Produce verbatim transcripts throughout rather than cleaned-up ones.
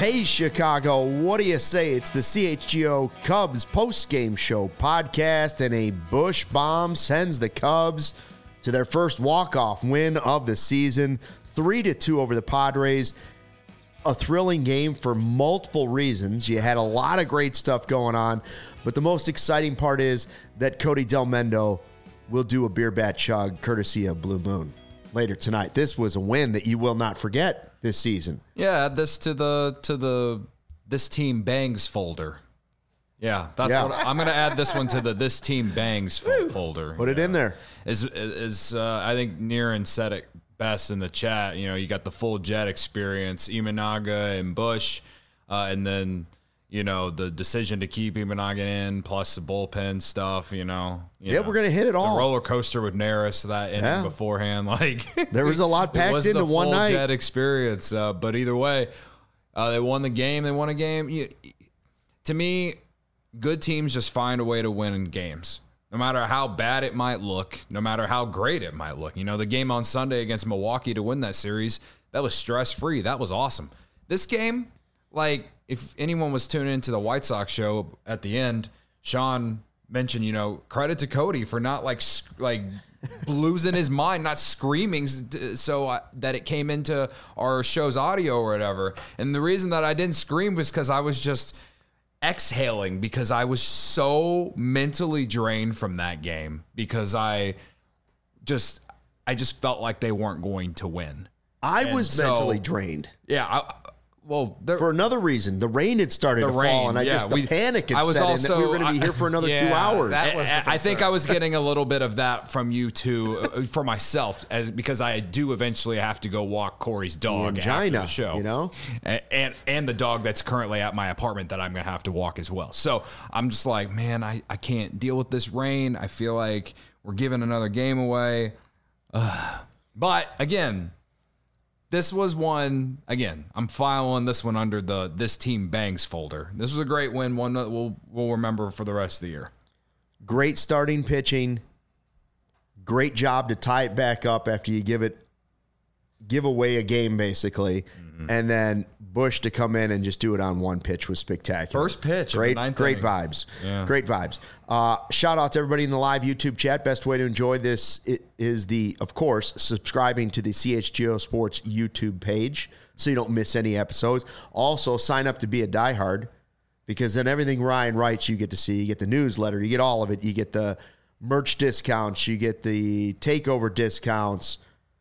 Hey, Chicago, what do you say? It's the C H G O Cubs post-game show podcast, and a Busch bomb sends the Cubs to their first walk-off win of the season, three to two over the Padres. A thrilling game for multiple reasons. You had a lot of great stuff going on, but the most exciting part is that Cody Delmendo will do a beer bat chug courtesy of Blue Moon later tonight. This was a win that you will not forget this season. Yeah, add this to the to the this team bangs folder. Yeah, that's Yeah. what I'm going to add this one to the this team bangs fo- folder. Put it in there. Is is uh, I think Niren said it best in the chat. You know, you got the full Jet experience, Imanaga and Busch, uh, and then you know the decision to keep Imanaga in, plus the bullpen stuff. You know, you Yeah, know, we're gonna hit it all. The roller coaster with Neris that inning Yeah. beforehand, like There was a lot packed it was into the one full night. Jet experience. Uh, but either way, uh, they won the game. They won a game. You, to me, good teams just find a way to win in games. No matter how bad it might look, no matter how great it might look. You know, the game on Sunday against Milwaukee to win that series, that was stress-free. That was awesome. This game, like, if anyone was tuning into the White Sox show at the end, Sean mentioned, you know, credit to Cody for not, like, sc- like losing his mind, not screaming so I, that it came into our show's audio or whatever. And the reason that I didn't scream was because I was just exhaling because I was so mentally drained from that game because I just I just felt like they weren't going to win. I And was so- mentally drained. Yeah, I, well, there, For another reason, the rain had started The to fall, rain, and I yeah, just the we- panic had I was set also- in that we were going to be I- here for another two yeah, hours. that was the I, I think concern. I was getting a little bit of that from you too, uh, for myself, as because I do eventually have to go walk Corey's dog after angina, the show, you know? and, and and the dog that's currently at my apartment that I'm gonna have to walk as well. So I'm just like, man, I, I can't deal with this rain. I feel like we're giving another game away. Ugh. But again, this was one, again, I'm filing this one under the this team bangs folder. This was a great win, one that we'll, we'll remember for the rest of the year. Great starting pitching. Great job to tie it back up after you give it, give away a game basically, Mm-hmm. and then Busch to come in and just do it on one pitch was spectacular. First pitch of the great, ninth great inning. vibes, Yeah. great vibes. Uh, shout out to everybody in the live YouTube chat. Best way to enjoy this is the, of course, subscribing to the C H G O Sports YouTube page so you don't miss any episodes. Also, sign up to be a diehard because then everything Ryan writes you get to see. You get the newsletter, you get all of it. You get the merch discounts, you get the takeover discounts,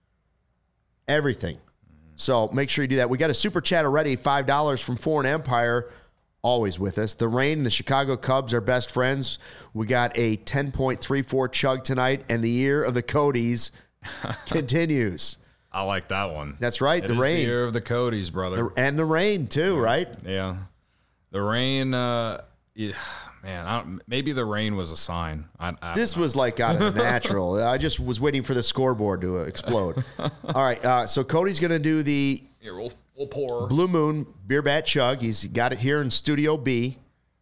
everything. So make sure you do that. We got a super chat already, five dollars from Foreign Empire, always with us. The Rain and the Chicago Cubs are best friends. We got a ten point three four chug tonight, and the year of the Codys continues. I like that one. That's right, It the is Rain. the year of the Codys, brother. The- and the Rain, too, right? yeah. The rain, uh, yeah, man, I don't, maybe the rain was a sign. I, I This don't know. was like out of the natural. I just was waiting for the scoreboard to uh, explode. All right, uh, so Cody's going to do the Here, we'll, we'll pour. Blue Moon beer bat chug. He's got it here in Studio B.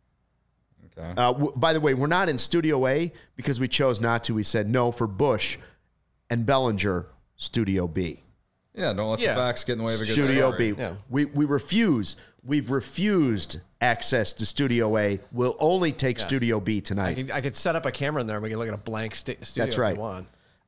Okay. Uh, w- by the way, we're not in Studio A because we chose not to. We said no for Busch and Bellinger, Studio B. Yeah, don't let Yeah. the facts get in the way of a good Studio story. B. Yeah. We we refuse. We've refused access to Studio A. We'll only take Studio B I tonight. could, I could set up a camera in there and we can look at a blank st- studio That's right. if you want.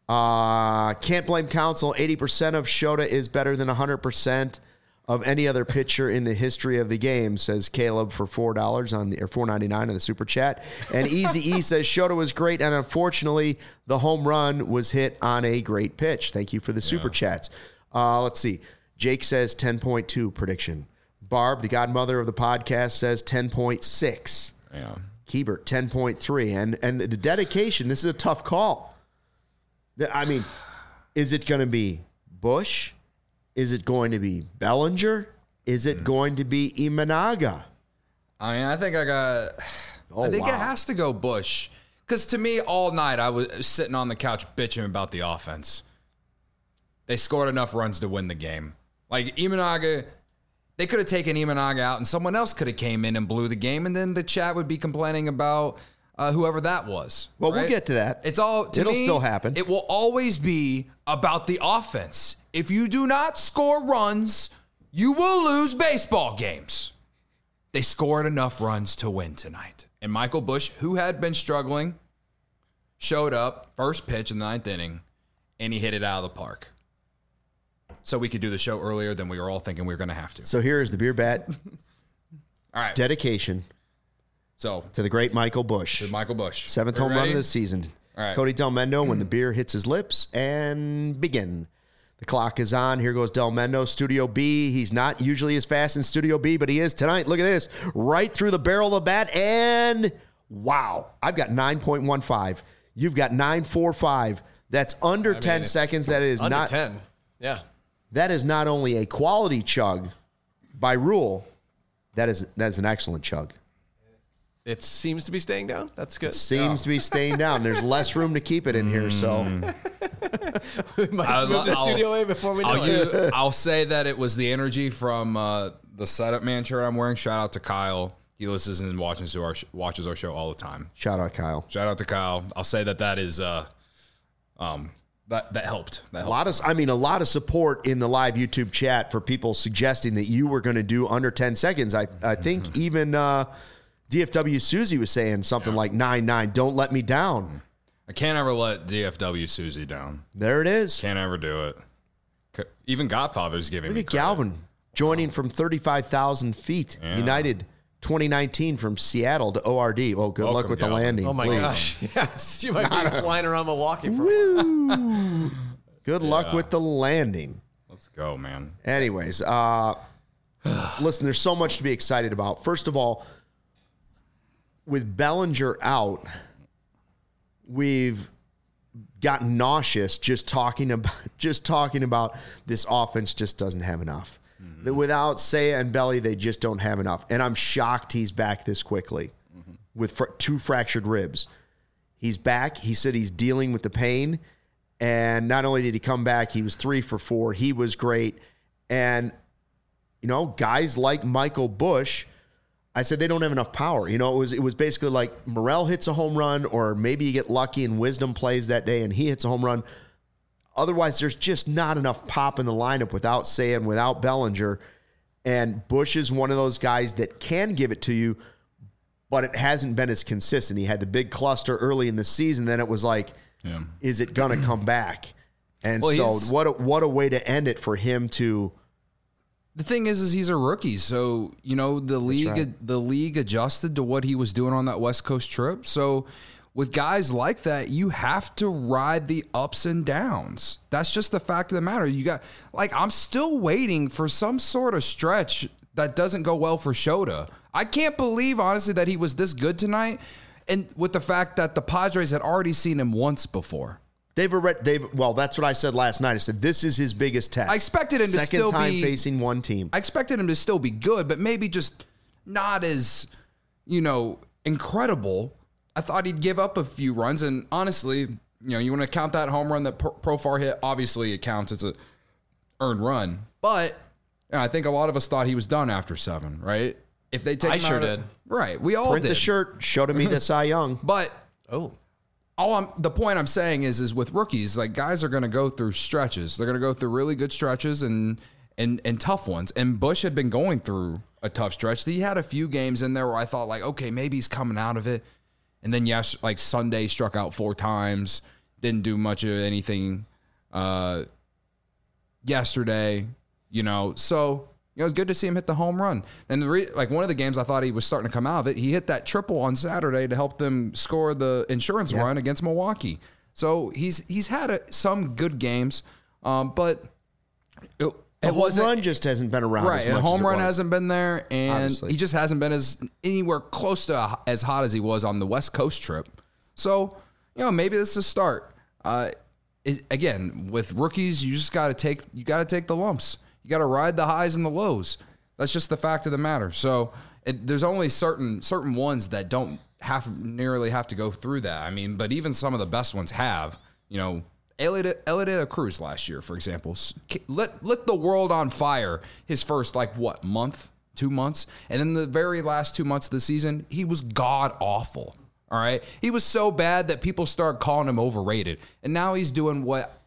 Uh, can't blame Council. eighty percent of Shota is better than one hundred percent of any other pitcher in the history of the game, says Caleb for four dollars on the or four ninety-nine on the super chat. And Easy E says Shota was great, and unfortunately, the home run was hit on a great pitch. Thank you for the super chats. Uh, let's see. Jake says ten point two prediction. Barb, the godmother of the podcast, says ten point six. Yeah. Hebert, ten point three. And and the dedication, this is a tough call. The- I mean, is it going to be Busch? Is it going to be Bellinger? Is it going to be Imanaga? I mean, I think I got. Oh, I think wow. it has to go Busch. Because to me, all night I was sitting on the couch bitching about the offense. They scored enough runs to win the game. Like Imanaga, they could have taken Imanaga out, and someone else could have came in and blew the game, and then the chat would be complaining about uh, whoever that was. Well, we'll right? get to that. It's all. To It'll me, still happen. It will always be about the offense. If you do not score runs, you will lose baseball games. They scored enough runs to win tonight. And Michael Busch, who had been struggling, showed up, first pitch in the ninth inning, and he hit it out of the park. So we could do the show earlier than we were all thinking we were going to have to. So here is the Beer Bat All right. dedication So to the great Michael Busch. to Michael Busch. Seventh Are you home run ready? of the season. All right. Cody Delmendo, when the beer hits his lips, and begin. The clock is on. Here goes Delmendo, Studio B. He's not usually as fast in Studio B, but he is tonight. Look at this. Right through the barrel of the bat, and wow. I've got nine point one five. You've got nine forty-five. That's under I mean, ten it's seconds. That is Under not ten. Yeah. That is not only a quality chug by rule, that is that is an excellent chug. It seems to be staying down. That's good. Seems to be staying down. There's less room to keep it in here, so we might I'll- move the I'll- studio A before we know I'll, it. use, I'll say that it was the energy from uh, the setup man shirt I'm wearing. Shout out to Kyle. He listens and watches our sh- watches our show all the time. shout out Kyle. Shout out to Kyle. I'll say that that is uh, um, that that helped. That A helped. lot of, I mean, a lot of support in the live YouTube chat for people suggesting that you were going to do under ten seconds. I, I think even uh, D F W Susie was saying something like nine nine. Don't let me down. I can't ever let D F W Susie down. There it is. Can't ever do it. C- Even Godfather's giving Look me at credit. Galvin joining from thirty-five thousand feet. Yeah. United twenty nineteen from Seattle to O R D. Well, good Welcome, luck with Galvin. the landing. Oh my please. gosh. Yes. You might be flying around Milwaukee for a while. Good luck Yeah. with the landing. Let's go, man. Anyways, uh, listen, there's so much to be excited about. First of all, with Bellinger out, we've gotten nauseous just talking about just talking about this offense just doesn't have enough. Mm-hmm. That without Seiya and Belly, they just don't have enough. And I'm shocked he's back this quickly Mm-hmm. with fr- two fractured ribs. He's back. He said he's dealing with the pain. And not only did he come back, he was three for four. He was great. And, you know, guys like Michael Busch, I said they don't have enough power. You know, it was it was basically like Morel hits a home run, or maybe you get lucky and Wisdom plays that day and he hits a home run. Otherwise, there's just not enough pop in the lineup without Seiya and without Bellinger. And Busch is one of those guys that can give it to you, but it hasn't been as consistent. He had the big cluster early in the season. Then it was like, Yeah. is it going to come back? And Well, so he's- what a, what a way to end it for him to The thing is, is he's a rookie, so you know the league. right. The league adjusted to what he was doing on that West Coast trip. So with guys like that, you have to ride the ups and downs. That's just the fact of the matter. You got like I'm still waiting for some sort of stretch that doesn't go well for Shota. I can't believe honestly that he was this good tonight, and with the fact that the Padres had already seen him once before. They've already, they've well, that's what I said last night. I said this is his biggest test. I expected him to Second still time be- facing one team. I expected him to still be good, but maybe just not as, you know, incredible. I thought he'd give up a few runs, and honestly, you know, you want to count that home run that Pro- Profar hit. Obviously, it counts. It's a earned run, but you know, I think a lot of us thought he was done after seven, right? If they take, I him sure out of- did. right? We all Print did. the shirt. Show to me the Cy Young. But Oh. all I'm the point I'm saying is is with rookies, like guys are going to go through stretches. They're going to go through really good stretches and and and tough ones. And Busch had been going through a tough stretch. He had a few games in there where I thought like, okay, maybe he's coming out of it. And then yes, like Sunday struck out four times, didn't do much of anything uh yesterday, you know. So you know, it was good to see him hit the home run. And the re- like one of the games I thought he was starting to come out of it, he hit that triple on Saturday to help them score the insurance Yeah. run against Milwaukee. So he's he's had a, some good games, um, but it, The it home wasn't run just hasn't been around. right. As And much home as it run was. hasn't been there, and Obviously. he just hasn't been as anywhere close to as hot as he was on the West Coast trip. So you know, maybe this is a start. Uh, it, again, with rookies, you just got to take you got to take the lumps. You got to ride the highs and the lows. That's just the fact of the matter. So it, there's only certain certain ones that don't have nearly have to go through that. I mean, but even some of the best ones have. You know, Elliot Elliot Cruz last year, for example, s- lit lit the world on fire. His first like what month, two months, and in the very last two months of the season, he was god awful. All right, he was so bad that people started calling him overrated, and now he's doing what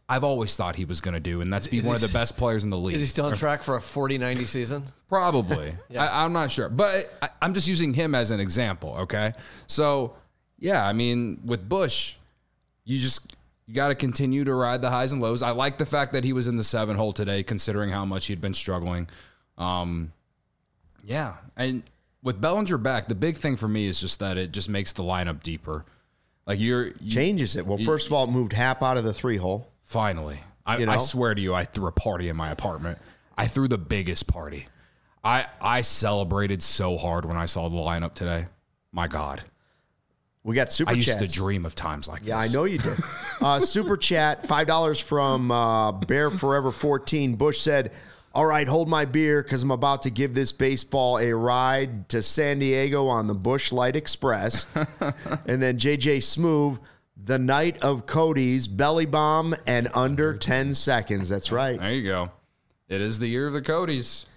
I've always thought he was going to do, and that's be one of the best players in the league. Is he still on track for a forty ninety season? Probably. yeah. I, I'm not sure. But I, I'm just using him as an example, okay? So, yeah, I mean, with Busch, you just you got to continue to ride the highs and lows. I like the fact that he was in the seven hole today, considering how much he'd been struggling. Um, yeah. And with Bellinger back, the big thing for me is just that it just makes the lineup deeper. Like you're you, Changes it. Well, you, first of all, it moved Happ out of the three hole. Finally. I, you know? I swear to you, I threw a party in my apartment. I threw the biggest party. I I celebrated so hard when I saw the lineup today. My God. We got super I used chats. to dream of times like yeah, this. Yeah, I know you did. uh, super chat, five dollars from uh, Bear Forever fourteen. Busch said, all right, hold my beer because I'm about to give this baseball a ride to San Diego on the Busch Light Express. And then J J Smoove, the night of Cody's belly bomb and under ten seconds. That's right. There you go. It is the year of the Codys.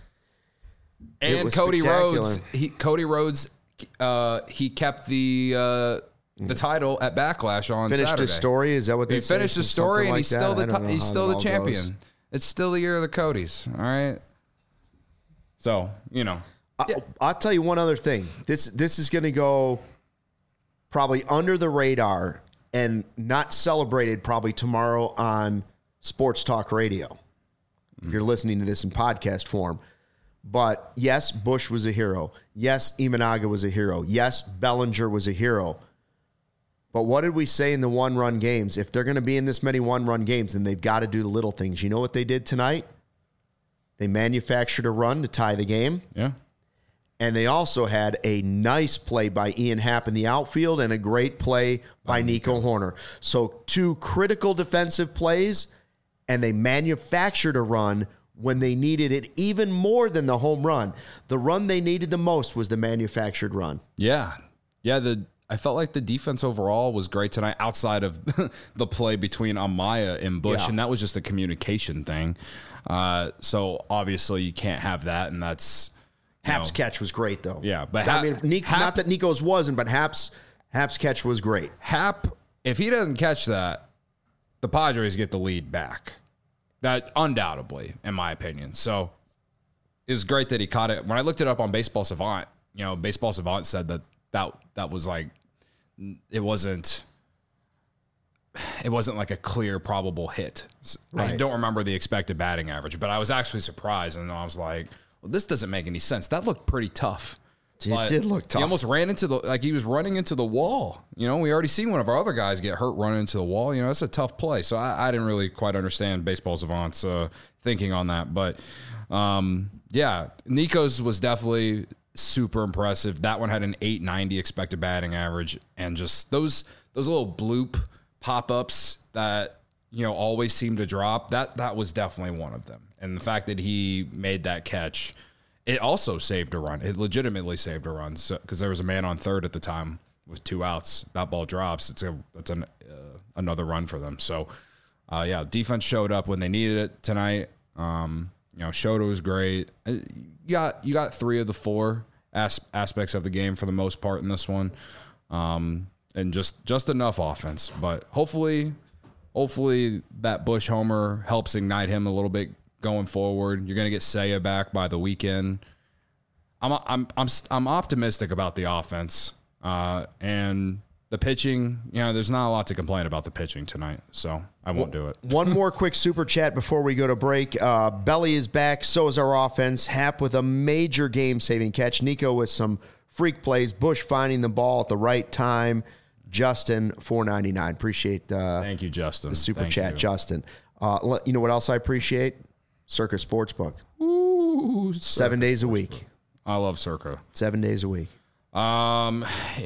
And was Cody spectacular. Rhodes, he, Cody Rhodes, uh, he kept the uh, the title at Backlash on Finished Saturday. his story. Is that what they He finished say? his story, Something and like he's that? still I the don't know he's how still it the all champion. goes. It's still the year of the Codys. All right. So you know, I, I'll tell you one other thing. This this is going to go probably under the radar and not celebrated probably tomorrow on Sports Talk Radio. If you're listening to this in podcast form. But yes, Busch was a hero. Yes, Imanaga was a hero. Yes, Bellinger was a hero. But what did we say in the one-run games? If they're going to be in this many one-run games, then they've got to do the little things. You know what they did tonight? They manufactured a run to tie the game. yeah. And they also had a nice play by Ian Happ in the outfield and a great play by Nico Horner. So two critical defensive plays, and they manufactured a run when they needed it even more than the home run. The run they needed the most was the manufactured run. Yeah. Yeah, the I felt like the defense overall was great tonight outside of the play between Amaya and Busch, Yeah. and that was just a communication thing. Uh, so obviously you can't have that, and that's you Happ's know, catch was great, though. Yeah, but I Happ- mean, Nico, Happ- not that Nico's wasn't, but Happ's Happ's catch was great. Happ, if he doesn't catch that, the Padres get the lead back. That undoubtedly, in my opinion. So it was great that he caught it. When I looked it up on Baseball Savant, you know, Baseball Savant said that that, that was like, it wasn't, it wasn't like a clear probable hit. I Right. don't remember the expected batting average, but I was actually surprised. And I was like, well, this doesn't make any sense. That looked pretty tough. It But did look tough. He almost ran into the, like he was running into the wall. You know, we already seen one of our other guys get hurt running into the wall. You know, it's a tough play. So I, I didn't really quite understand Baseball Savant's uh, thinking on that. But um, yeah, Nico's was definitely super impressive. That one had an eight ninety expected batting average. And just those, those little bloop pop-ups that, you know, always seem to drop, that, that was definitely one of them. And the fact that he made that catch, it also saved a run. It legitimately saved a run because so, there was a man on third at the time with two outs. That ball drops. It's a it's an, uh, another run for them. So, uh, yeah, defense showed up when they needed it tonight. Um, you know, Shota was great. You got you got three of the four as, aspects of the game for the most part in this one, um, and just just enough offense. But hopefully, hopefully that Busch homer helps ignite him a little bit going forward. You're going to get Seiya back by the weekend. I'm I'm I'm I'm optimistic about the offense uh, and the pitching. You know, there's not a lot to complain about the pitching tonight, so I won't do it. One more quick super chat before we go to break. Uh, Belly is back. So is our offense. Happ with a major game-saving catch. Nico with some freak plays. Busch finding the ball at the right time. Justin, four ninety-nine. Appreciate uh, Thank you, Justin. the super Thank chat, you. Justin. Uh, you know what else I appreciate? Circa Sportsbook. Ooh, Seven days a week. I love Circa. Seven days a week. Um,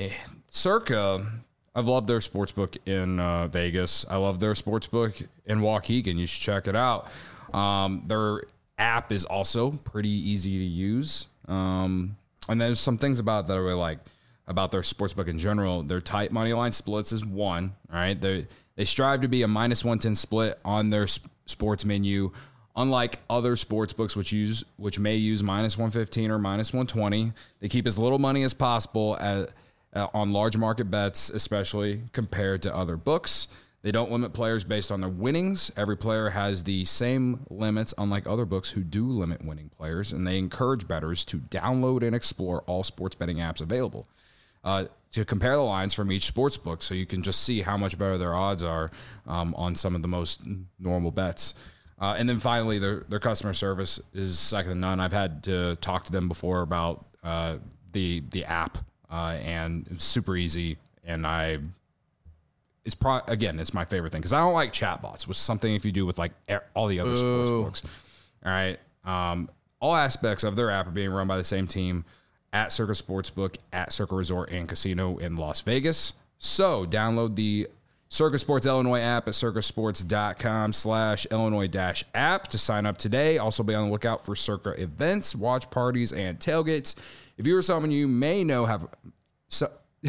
Circa, I've loved their sportsbook in uh, Vegas. I love their sportsbook in Waukegan. You should check it out. Um, their app is also pretty easy to use. Um, and there's some things about that I really like about their sportsbook in general. Their tight money line splits is one, all right? They they strive to be a minus one ten split on their sp- sports menu. Unlike other sports books, which use which may use minus one fifteen or minus one twenty, they keep as little money as possible at, uh, on large market bets, especially compared to other books. They don't limit players based on their winnings. Every player has the same limits, unlike other books who do limit winning players, and they encourage bettors to download and explore all sports betting apps available uh, to compare the lines from each sports book so you can just see how much better their odds are um, on some of the most normal bets. Uh, and then finally, their, their customer service is second to none. I've had to talk to them before about uh, the the app, uh, and it's super easy, and I... It's pro again, it's my favorite thing because I don't like chatbots, which is something if you do with like all the other sports books. All right. Um, all aspects of their app are being run by the same team at Circa Sportsbook, at Circa Resort and Casino in Las Vegas. So download the Circa Sports Illinois app at circasports.com slash Illinois dash app to sign up today. Also be on the lookout for Circa events, watch parties, and tailgates. If you or someone you may know have... So,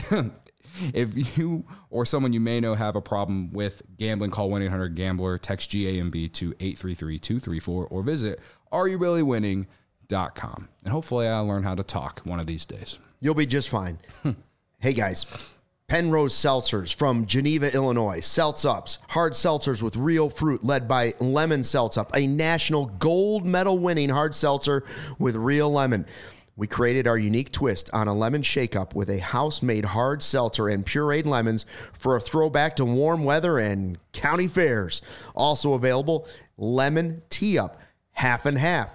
If you or someone you may know have a problem with gambling, call one eight hundred gambler, text G A M B to eight three three two three four, or visit are you really winning dot com. And hopefully I'll learn how to talk one of these days. You'll be just fine. Hey, guys. Penrose Seltzers from Geneva, Illinois. Seltz Ups, hard seltzers with real fruit led by Lemon Seltz Up, a national gold medal winning hard seltzer with real lemon. We created our unique twist on a lemon shake-up with a house-made hard seltzer and pureed lemons for a throwback to warm weather and county fairs. Also available, lemon tea-up, half and half,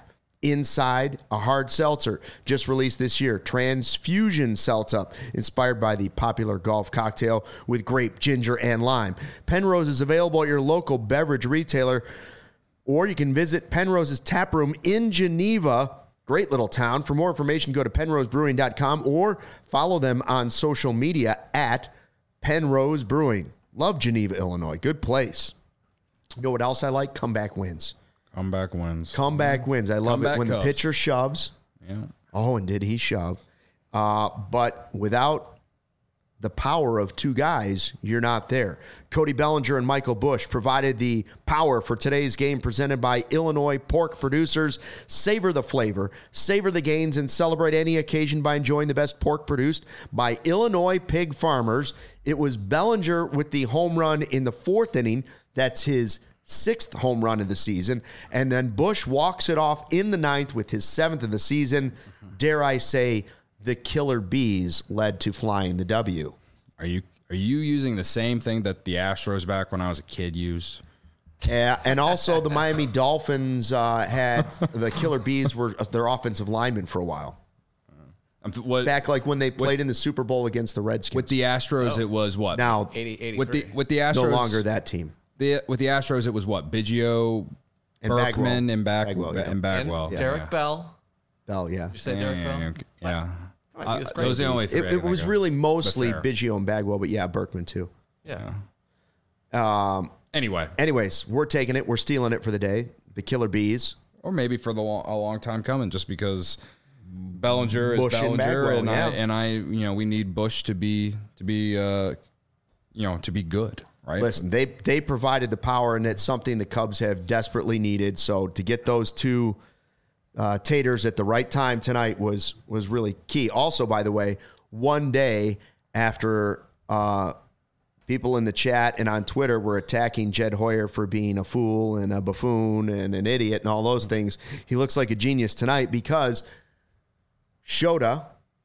inside a hard seltzer. Just released this year, Transfusion Seltz-Up, inspired by the popular golf cocktail with grape, ginger, and lime. Penrose is available at your local beverage retailer, or you can visit Penrose's tap room in Geneva. Great little town. For more information, go to penrose brewing dot com or follow them on social media at Penrose Brewing. Love Geneva, Illinois. Good place. You know what else I like? Comeback wins. Comeback wins. Comeback wins. I love Comeback it when Cubs. the pitcher shoves. Yeah. Oh, and did he shove? Uh, but without the power of two guys, you're not there. Cody Bellinger and Michael Busch provided the power for today's game presented by Illinois pork producers. Savor the flavor, savor the gains, and celebrate any occasion by enjoying the best pork produced by Illinois pig farmers. It was Bellinger with the home run in the fourth inning. That's his sixth home run of the season. And then Busch walks it off in the ninth with his seventh of the season. Dare I say, the Killer Bees led to flying the W. Are you are you using the same thing that the Astros back when I was a kid used? Yeah, and also the Miami Dolphins uh, had the Killer Bees were their offensive linemen for a while. Um, what, Back like when they played in the Super Bowl against the Redskins. with the Astros, Oh. it was what? now, eighty, eighty-three. with the with the Astros, no longer that team. The, with the Astros, it was what? Biggio, And Berkman, Bagwell. and Back Bagwell, yeah. and Bagwell. And Yeah, Derek yeah. Bell. Bell, yeah. You say Yeah, Derek yeah, Bell? yeah, yeah. Come on, he was Uh, great. those are the only three. It, I it can was think of. really mostly fair. Biggio and Bagwell, but yeah, Berkman too. Yeah. Um, Anyway, anyways, we're taking it. We're stealing it for the day. The Killer Bees. or maybe for the long, a long time coming, just because Bellinger is Busch and Bellinger, Bagwell, and, yeah. I and I, you know, we need Bush to be to be, uh, you know, to be good, right? Listen, they they provided the power, and it's something the Cubs have desperately needed. So to get those two uh, taters at the right time tonight was was really key. Also, by the way, one day after uh, people in the chat and on Twitter were attacking Jed Hoyer for being a fool and a buffoon and an idiot and all those things, he looks like a genius tonight because Shota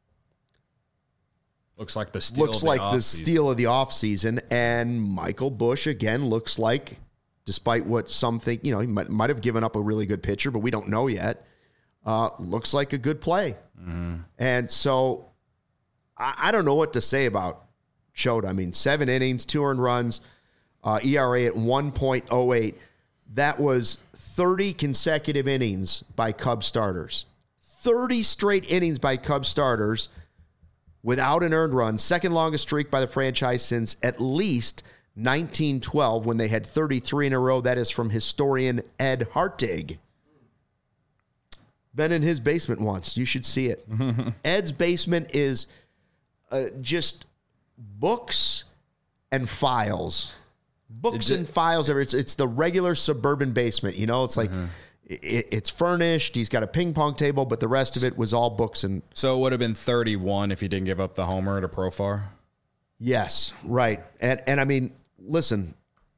looks like the steal looks of the like the offseason. steal of the offseason, and Michael Busch again looks like, despite what some think, you know, he might, might have given up a really good pitcher, but we don't know yet. Uh, looks like a good play, Mm-hmm. and so I, I don't know what to say about Shota. I mean, seven innings, two earned runs, uh, E R A at one point oh eight. That was thirty consecutive innings by Cubs starters. thirty straight innings by Cubs starters without an earned run. Second longest streak by the franchise since at least nineteen twelve when they had thirty-three in a row. That is from historian Ed Hartig. Been in his basement once. You should see it. Ed's basement is uh, just books and files. Books Is it- and files. It's, it's the regular suburban basement. You know, it's like it, it's furnished. He's got a ping pong table, but the rest of it was all books and So it would have been thirty-one if he didn't give up the homer to Profar. yes, right. And and I mean, listen,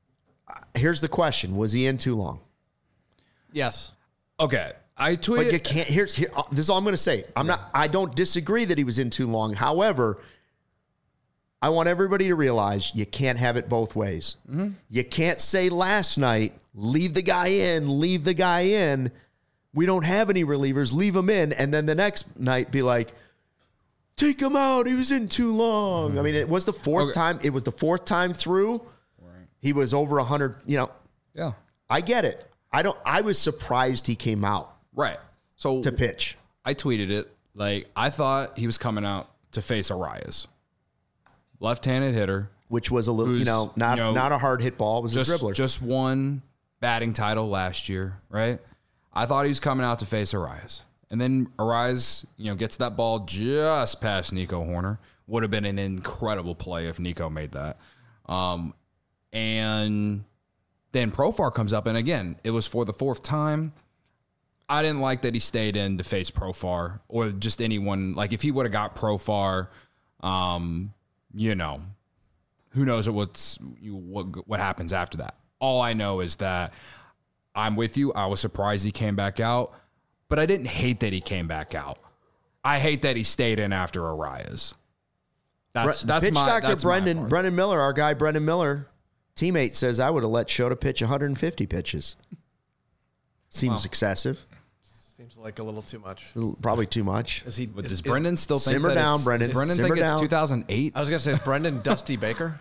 Here's the question: was he in too long? Yes. Okay. I But tweeted. you can't. Here's here. uh, This is all I'm going to say. I'm not. I don't disagree that he was in too long. However, I want everybody to realize you can't have it both ways. Mm-hmm. You can't say last night, leave the guy in, leave the guy in. We don't have any relievers, leave him in, and then the next night be like, take him out. He was in too long. Mm-hmm. I mean, it was the fourth Okay. time. It was the fourth time through. Right. He was over a hundred. You know. Yeah. I get it. I don't. I was surprised he came out Right. So to pitch. I tweeted it. Like, I thought he was coming out to face Arias. Left-handed hitter. Which was a little, you Who's, know, not you know, not a hard hit ball. It was Just, a dribbler. just won batting title last year, right? I thought he was coming out to face Arias. And then Arias, you know, gets that ball just past Nico Horner. Would have been an incredible play if Nico made that. Um, and then Profar comes up, and again, it was for the fourth time. I didn't like that he stayed in to face Profar or just anyone. Like, if he would have got Profar, um, you know, who knows what's what what happens after that. All I know is that I'm with you. I was surprised he came back out, but I didn't hate that he came back out. I hate that he stayed in after Arias. That's Bre- that's pitch my doctor that's my Brendan part. Brendan Miller, our guy Brendan Miller, teammate says I would have let Shota pitch one hundred fifty pitches. Seems Wow. excessive. Seems like a little too much. Probably too much. Is he? But is- does is- Brendan still think Simmer that down, it's- Brendan. Does Brendan Simmer think it's down. two thousand eight? I was gonna say, is Brendan Dusty Baker?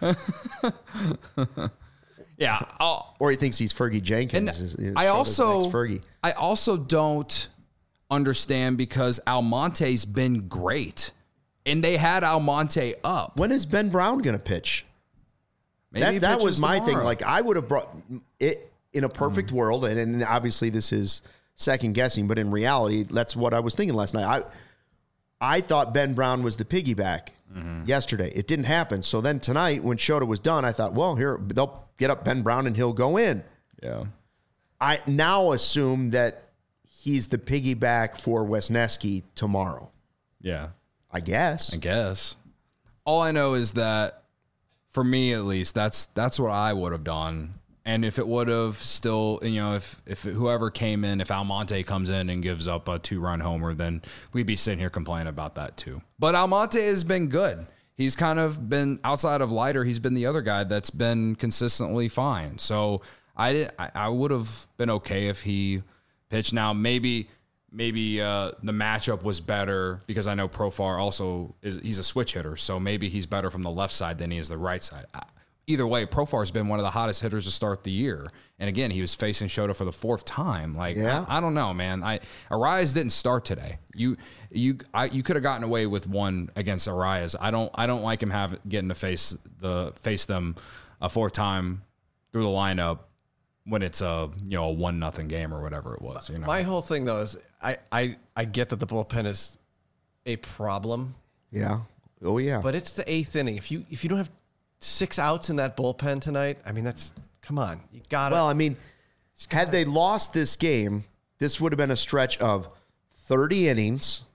Yeah. I'll, Or he thinks he's Fergie And Jenkins. is- is I Shota's also, next Fergie. I also don't understand because Almonte's been great, and they had Almonte up. When is Ben Brown going to pitch? Maybe he that that pitches was my thing. tomorrow. Like I would have brought it in a perfect Mm. world, and, and obviously this is second guessing, but in reality, that's what I was thinking last night. I I thought Ben Brown was the piggyback Mm-hmm. yesterday. It didn't happen. So then tonight, when Shota was done, I thought, well, here they'll get up Ben Brown and he'll go in. yeah. I now assume that he's the piggyback for Wesneski tomorrow. Yeah. I guess. I guess. All I know is that, for me at least, that's that's what I would have done. And if it would have still, you know, if if whoever came in, if Almonte comes in and gives up a two-run homer, then we'd be sitting here complaining about that too. But Almonte has been good. He's kind of been, outside of Leiter, he's been the other guy that's been consistently fine. So I did, I, I would have been okay if he pitched. Now maybe maybe uh, the matchup was better because I know Profar also is he's a switch hitter, so maybe he's better from the left side than he is the right side. I, Either way, Profar's been one of the hottest hitters to start the year. And again, he was facing Shota for the fourth time. Like, Yeah. I, I don't know, man. I Arias didn't start today. You you I, you could have gotten away with one against Arias. I don't I don't like him have getting to face the face them a fourth time through the lineup when it's a you know a one nothing game or whatever it was. You know, My whole thing though is I, I I get that the bullpen is a problem, Yeah. Oh yeah. but it's the eighth inning. If you if you don't have six outs in that bullpen tonight, I mean that's come on, you gotta. Well, I mean, had they lost this game, this would have been a stretch of thirty innings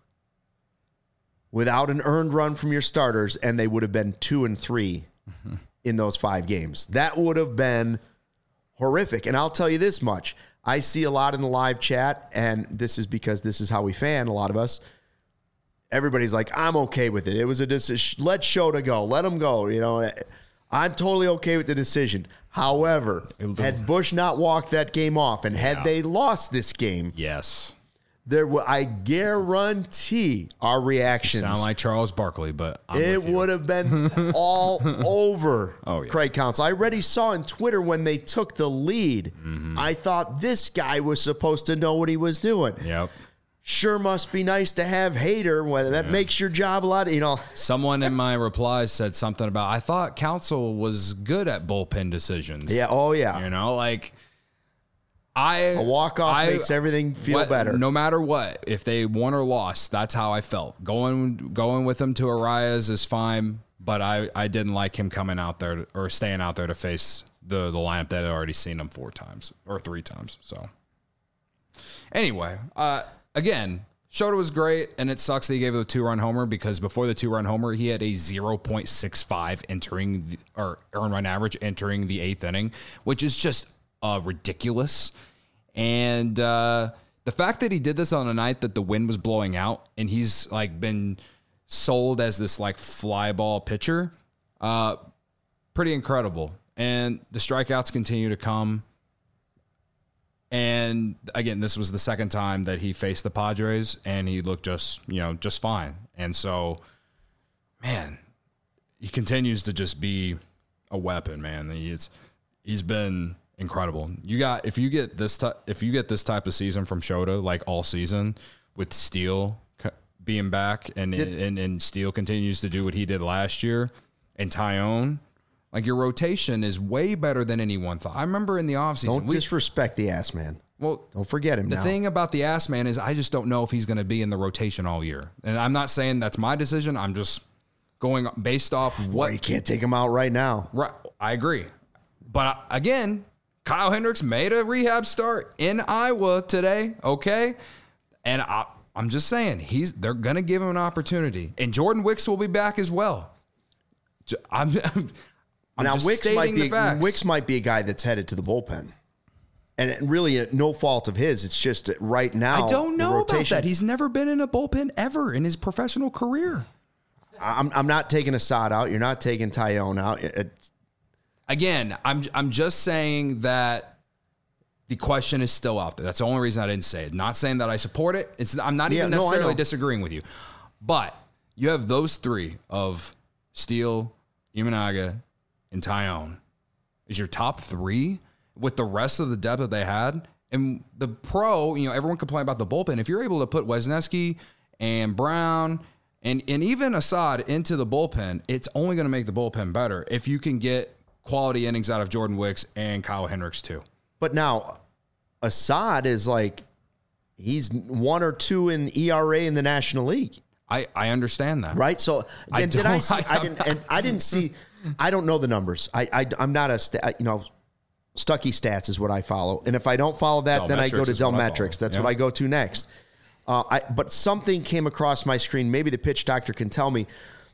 without an earned run from your starters, and they would have been two and three mm-hmm. in those five games. That would have been horrific. And I'll tell you this much. I see a lot in the live chat, and this is because this is how we fan, a lot of us. Everybody's like, I'm okay with it. It was a decision. Let Shota go. Let him go. You know, I'm totally okay with the decision. However, had Bush not walked that game off, and had Yeah. they lost this game, yes, there would I guarantee our reactions. sound like Charles Barkley, but I'm It with you. would have been all over Oh, yeah. Craig Counsell. I already saw on Twitter when they took the lead. Mm-hmm. I thought this guy was supposed to know what he was doing. Yep. Sure must be nice to have Hader. Whether that makes your job a lot, you know. Someone in my replies said something about, I thought Counsell was good at bullpen decisions. Yeah. Oh yeah. You know, like I A walk off I- makes everything feel what- better. No matter what, if they won or lost, that's how I felt. Going going with him to Arias is fine, but I, I didn't like him coming out there or staying out there to face the the lineup that had already seen him four times or three times. So anyway, uh, again, Shota was great, and it sucks that he gave it a two-run homer because before the two-run homer, he had a zero point six five entering the, or earned run average entering the eighth inning, which is just uh, ridiculous. And uh, the fact that he did this on a night that the wind was blowing out, and he's like been sold as this like fly ball pitcher, uh, pretty incredible. And the strikeouts continue to come. And again, this was the second time that he faced the Padres, and he looked just, you know, just fine. And so, man, he continues to just be a weapon, man. He's he's been incredible. You got if you get this ty- if you get this type of season from Shota, like all season, with Steele being back, and did, and and Steele continues to do what he did last year, and Tyone. Like, your rotation is way better than anyone thought. I remember in the offseason. Don't we, disrespect the ass man. Well, don't forget him the now. thing about the ass man is I just don't know if he's going to be in the rotation all year. And I'm not saying that's my decision. I'm just going based off what. Well, you can't take him out right now. Right. I agree. But again, Kyle Hendricks made a rehab start in Iowa today. Okay. And I, I'm just saying he's they're going to give him an opportunity. And Jordan Wicks will be back as well. I'm. I'm I'm now, just Wicks might be facts. Wicks might be a guy that's headed to the bullpen, and it really no fault of his. It's just that right now. I don't know about rotation, that. He's never been in a bullpen ever in his professional career. I'm I'm not taking Assad out. You're not taking Tyone out. It, Again, I'm I'm just saying that the question is still out there. That's the only reason I didn't say it. Not saying that I support it. It's I'm not Yeah, even no, I necessarily know. disagreeing with you, but you have those three of Steele, Imanaga, and Tyone is your top three with the rest of the depth that they had. And the pro, you know, everyone complained about the bullpen. If you're able to put Wisniewski and Brown and, and even Assad into the bullpen, it's only going to make the bullpen better if you can get quality innings out of Jordan Wicks and Kyle Hendricks too. but now, Assad is like he's one or two in E R A in the National League. I, I understand that. Right. So I and did I don't- see? I, didn't. And I didn't see. I don't know the numbers. I, I I'm not a sta- you know. Stucky Stats is what I follow, and if I don't follow that, then I go to Delmetrics is what I follow. Delmetrics. That's Yep. what I go to next. Uh, I but something came across my screen. Maybe the pitch doctor can tell me.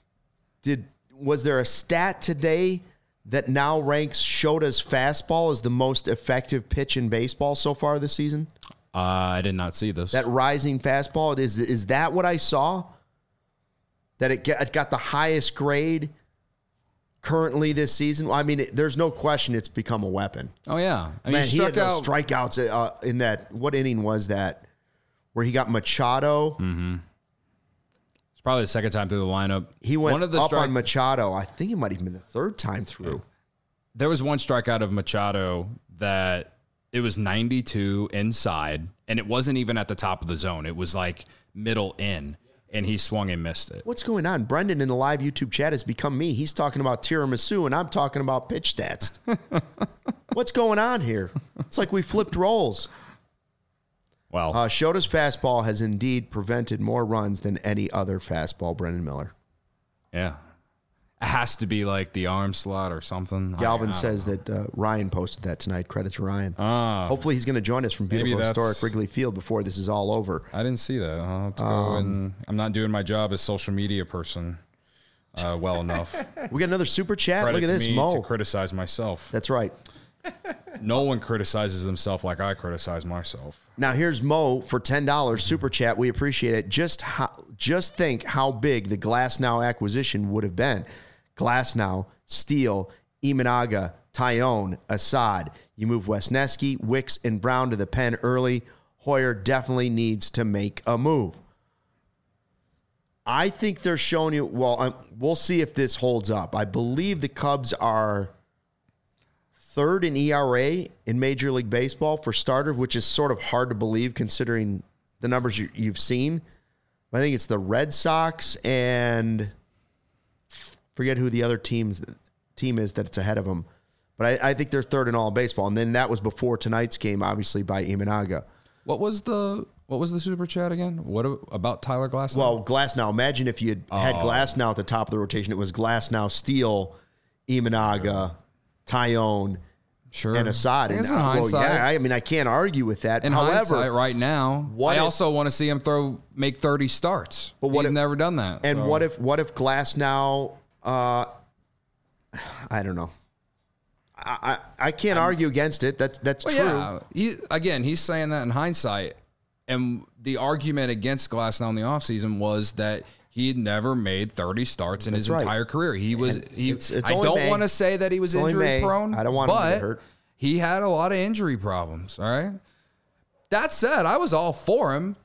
Did was there a stat today that now ranks Shota's fastball as the most effective pitch in baseball so far this season? Uh, I did not see this. That rising fastball, is is that what I saw? That it got, it got the highest grade currently this season? Well, I mean, it, there's no question it's become a weapon. oh, yeah. I mean, Man, he he struck had those out. strikeouts uh, in that, what inning was that? Where he got Machado. Mm-hmm. It's probably the second time through the lineup. He went one of the up strike- on Machado. I think it might have been the third time through. There was one strikeout of Machado that it was ninety-two inside, and it wasn't even at the top of the zone. It was like middle in, and he swung and missed it. What's going on? Brendan in the live YouTube chat has become me. He's talking about tiramisu, and I'm talking about pitch stats. What's going on here? It's like we flipped roles. Well, Uh, Shota's fastball has indeed prevented more runs than any other fastball, Brendan Miller. yeah. It has to be like the arm slot or something. Galvin I- I don't says know. that uh, Ryan posted that tonight. Credit to Ryan. Ah, Hopefully he's going to join us from Maybe beautiful that's- historic Wrigley Field before this is all over. I didn't see that. I'll have to go Um, and I'm not doing my job as social media person uh, well enough. We got another super chat. Credit Look at to this, me Mo. to criticize myself. That's right. No one criticizes themselves like I criticize myself. Now here's Mo for ten dollars super chat. We appreciate it. Just how, just think how big the Glasnow acquisition would have been. Glasnow, Steele, Imanaga, Tyone, Assad. You move Wisniewski, Wicks, and Brown to the pen early. Hoyer definitely needs to make a move. I think they're showing you. Well, um, we'll see if this holds up. I believe the Cubs are third in E R A in Major League Baseball for starter, which is sort of hard to believe considering the numbers you, you've seen. I think it's the Red Sox and forget who the other teams team is that's ahead of them. But I, I think they're third in all of baseball. And then that was before tonight's game, obviously, by Imanaga. What was the what was the super chat again? What about Tyler Glasnow? Well, Glasnow. Imagine if you had had Oh. Glasnow at the top of the rotation. It was Glasnow, Steele, Imanaga, Tyone, Sure. and Assad. I And guess in uh, well, hindsight- yeah, I mean, I can't argue with that. In However, hindsight, right now, what I if- also want to see him throw make thirty starts. But what He's if- never done that. and so. what if what if Glass now? Uh, I don't know. I I, I can't argue against it. That's that's Well, true. yeah, he, again, he's saying that in hindsight. And the argument against Glasnow in the offseason was that he had never made thirty starts in That's his right. entire career. He was And he. it's- it's I only don't May. want to say that he was It's only injury May. prone. I don't want him to but get hurt. He had a lot of injury problems. All right. That said, I was all for him,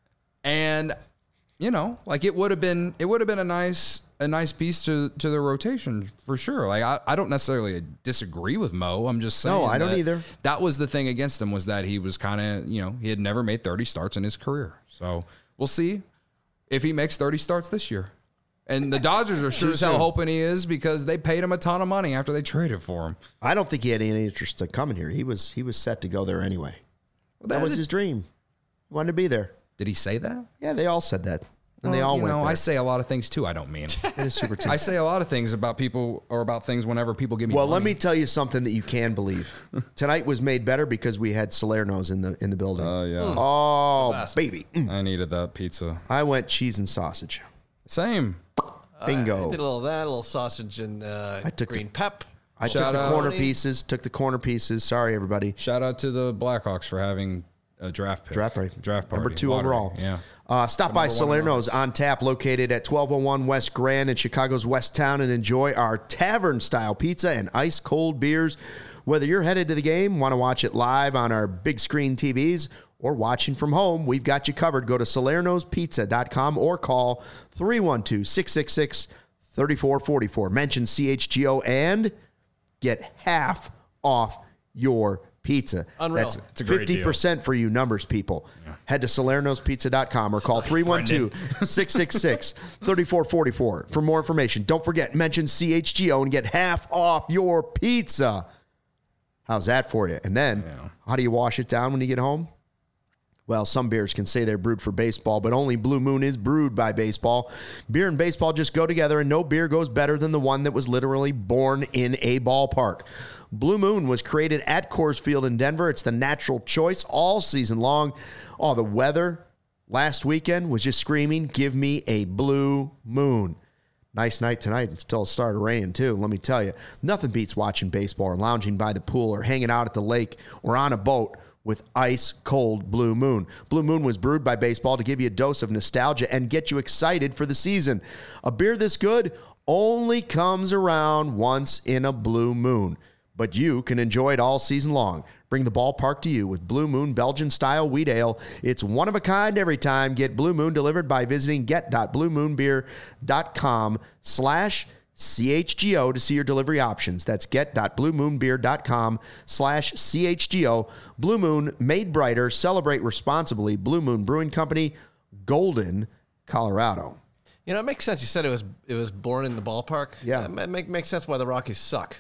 and you know, like it would have been it would have been a nice a nice piece to to the rotation for sure. Like I, I don't necessarily disagree with Mo. I'm just saying No, I don't that either. That was the thing against him, was that he was kind of, you know, he had never made thirty starts in his career. So we'll see if he makes thirty starts this year. And the Dodgers are sure Too as hell soon. hoping he is, because they paid him a ton of money after they traded for him. I don't think he had any interest in coming here. He was he was set to go there anyway. That was his dream. He wanted to be there. Did he say that? Yeah, they all said that, and they Well, all you went know, there. I say a lot of things too I don't mean. It is super team. I say a lot of things about people or about things whenever people give me Well, money. let me tell you something that you can believe. Tonight was made better because we had Salerno's in the in the building. Oh, yeah. Oh, baby. Mm. I needed that pizza. I went cheese and sausage. Same. Bingo. I did a little of that, a little sausage and uh, I took green the- pep. I Shout took the out. corner pieces, took the corner pieces. Sorry, everybody. Shout out to the Blackhawks for having a draft pick. Draft party. Draft party. Number two Lottery. overall. Yeah. Uh, stop by number one in Salerno's on tap, located at twelve oh one West Grand in Chicago's West Town, and enjoy our tavern-style pizza and ice-cold beers. Whether you're headed to the game, want to watch it live on our big screen T Vs, or watching from home, we've got you covered. Go to salernos pizza dot com or call three one two, six six six, three four four four. Mention C H G O and get half off your pizza. Unreal. That's It's a great fifty percent for you numbers people. Head to salernos pizza dot com or call three one two, six six six, three four four four for more information. Don't forget, mention C H G O and get half off your pizza. How's that for you? And then, Yeah. how do you wash it down when you get home? Well, some beers can say they're brewed for baseball, but only Blue Moon is brewed by baseball. Beer and baseball just go together, and no beer goes better than the one that was literally born in a ballpark. Blue Moon was created at Coors Field in Denver. It's the natural choice all season long. Oh, the weather last weekend was just screaming, give me a Blue Moon. Nice night tonight until it started raining, too. Let me tell you, nothing beats watching baseball or lounging by the pool or hanging out at the lake or on a boat with ice-cold Blue Moon. Blue Moon was brewed by baseball to give you a dose of nostalgia and get you excited for the season. A beer this good only comes around once in a Blue Moon, but you can enjoy it all season long. Bring the ballpark to you with Blue Moon Belgian-style wheat ale. It's one of a kind every time. Get Blue Moon delivered by visiting get dot blue moon beer dot com slash C H G O to see your delivery options. That's get dot blue moon beer dot com slash C H G O. Blue Moon, made brighter. Celebrate responsibly. Blue Moon Brewing Company, Golden, Colorado. You know, it makes sense. You said it was it was born in the ballpark. Yeah. It make, makes sense why the Rockies suck.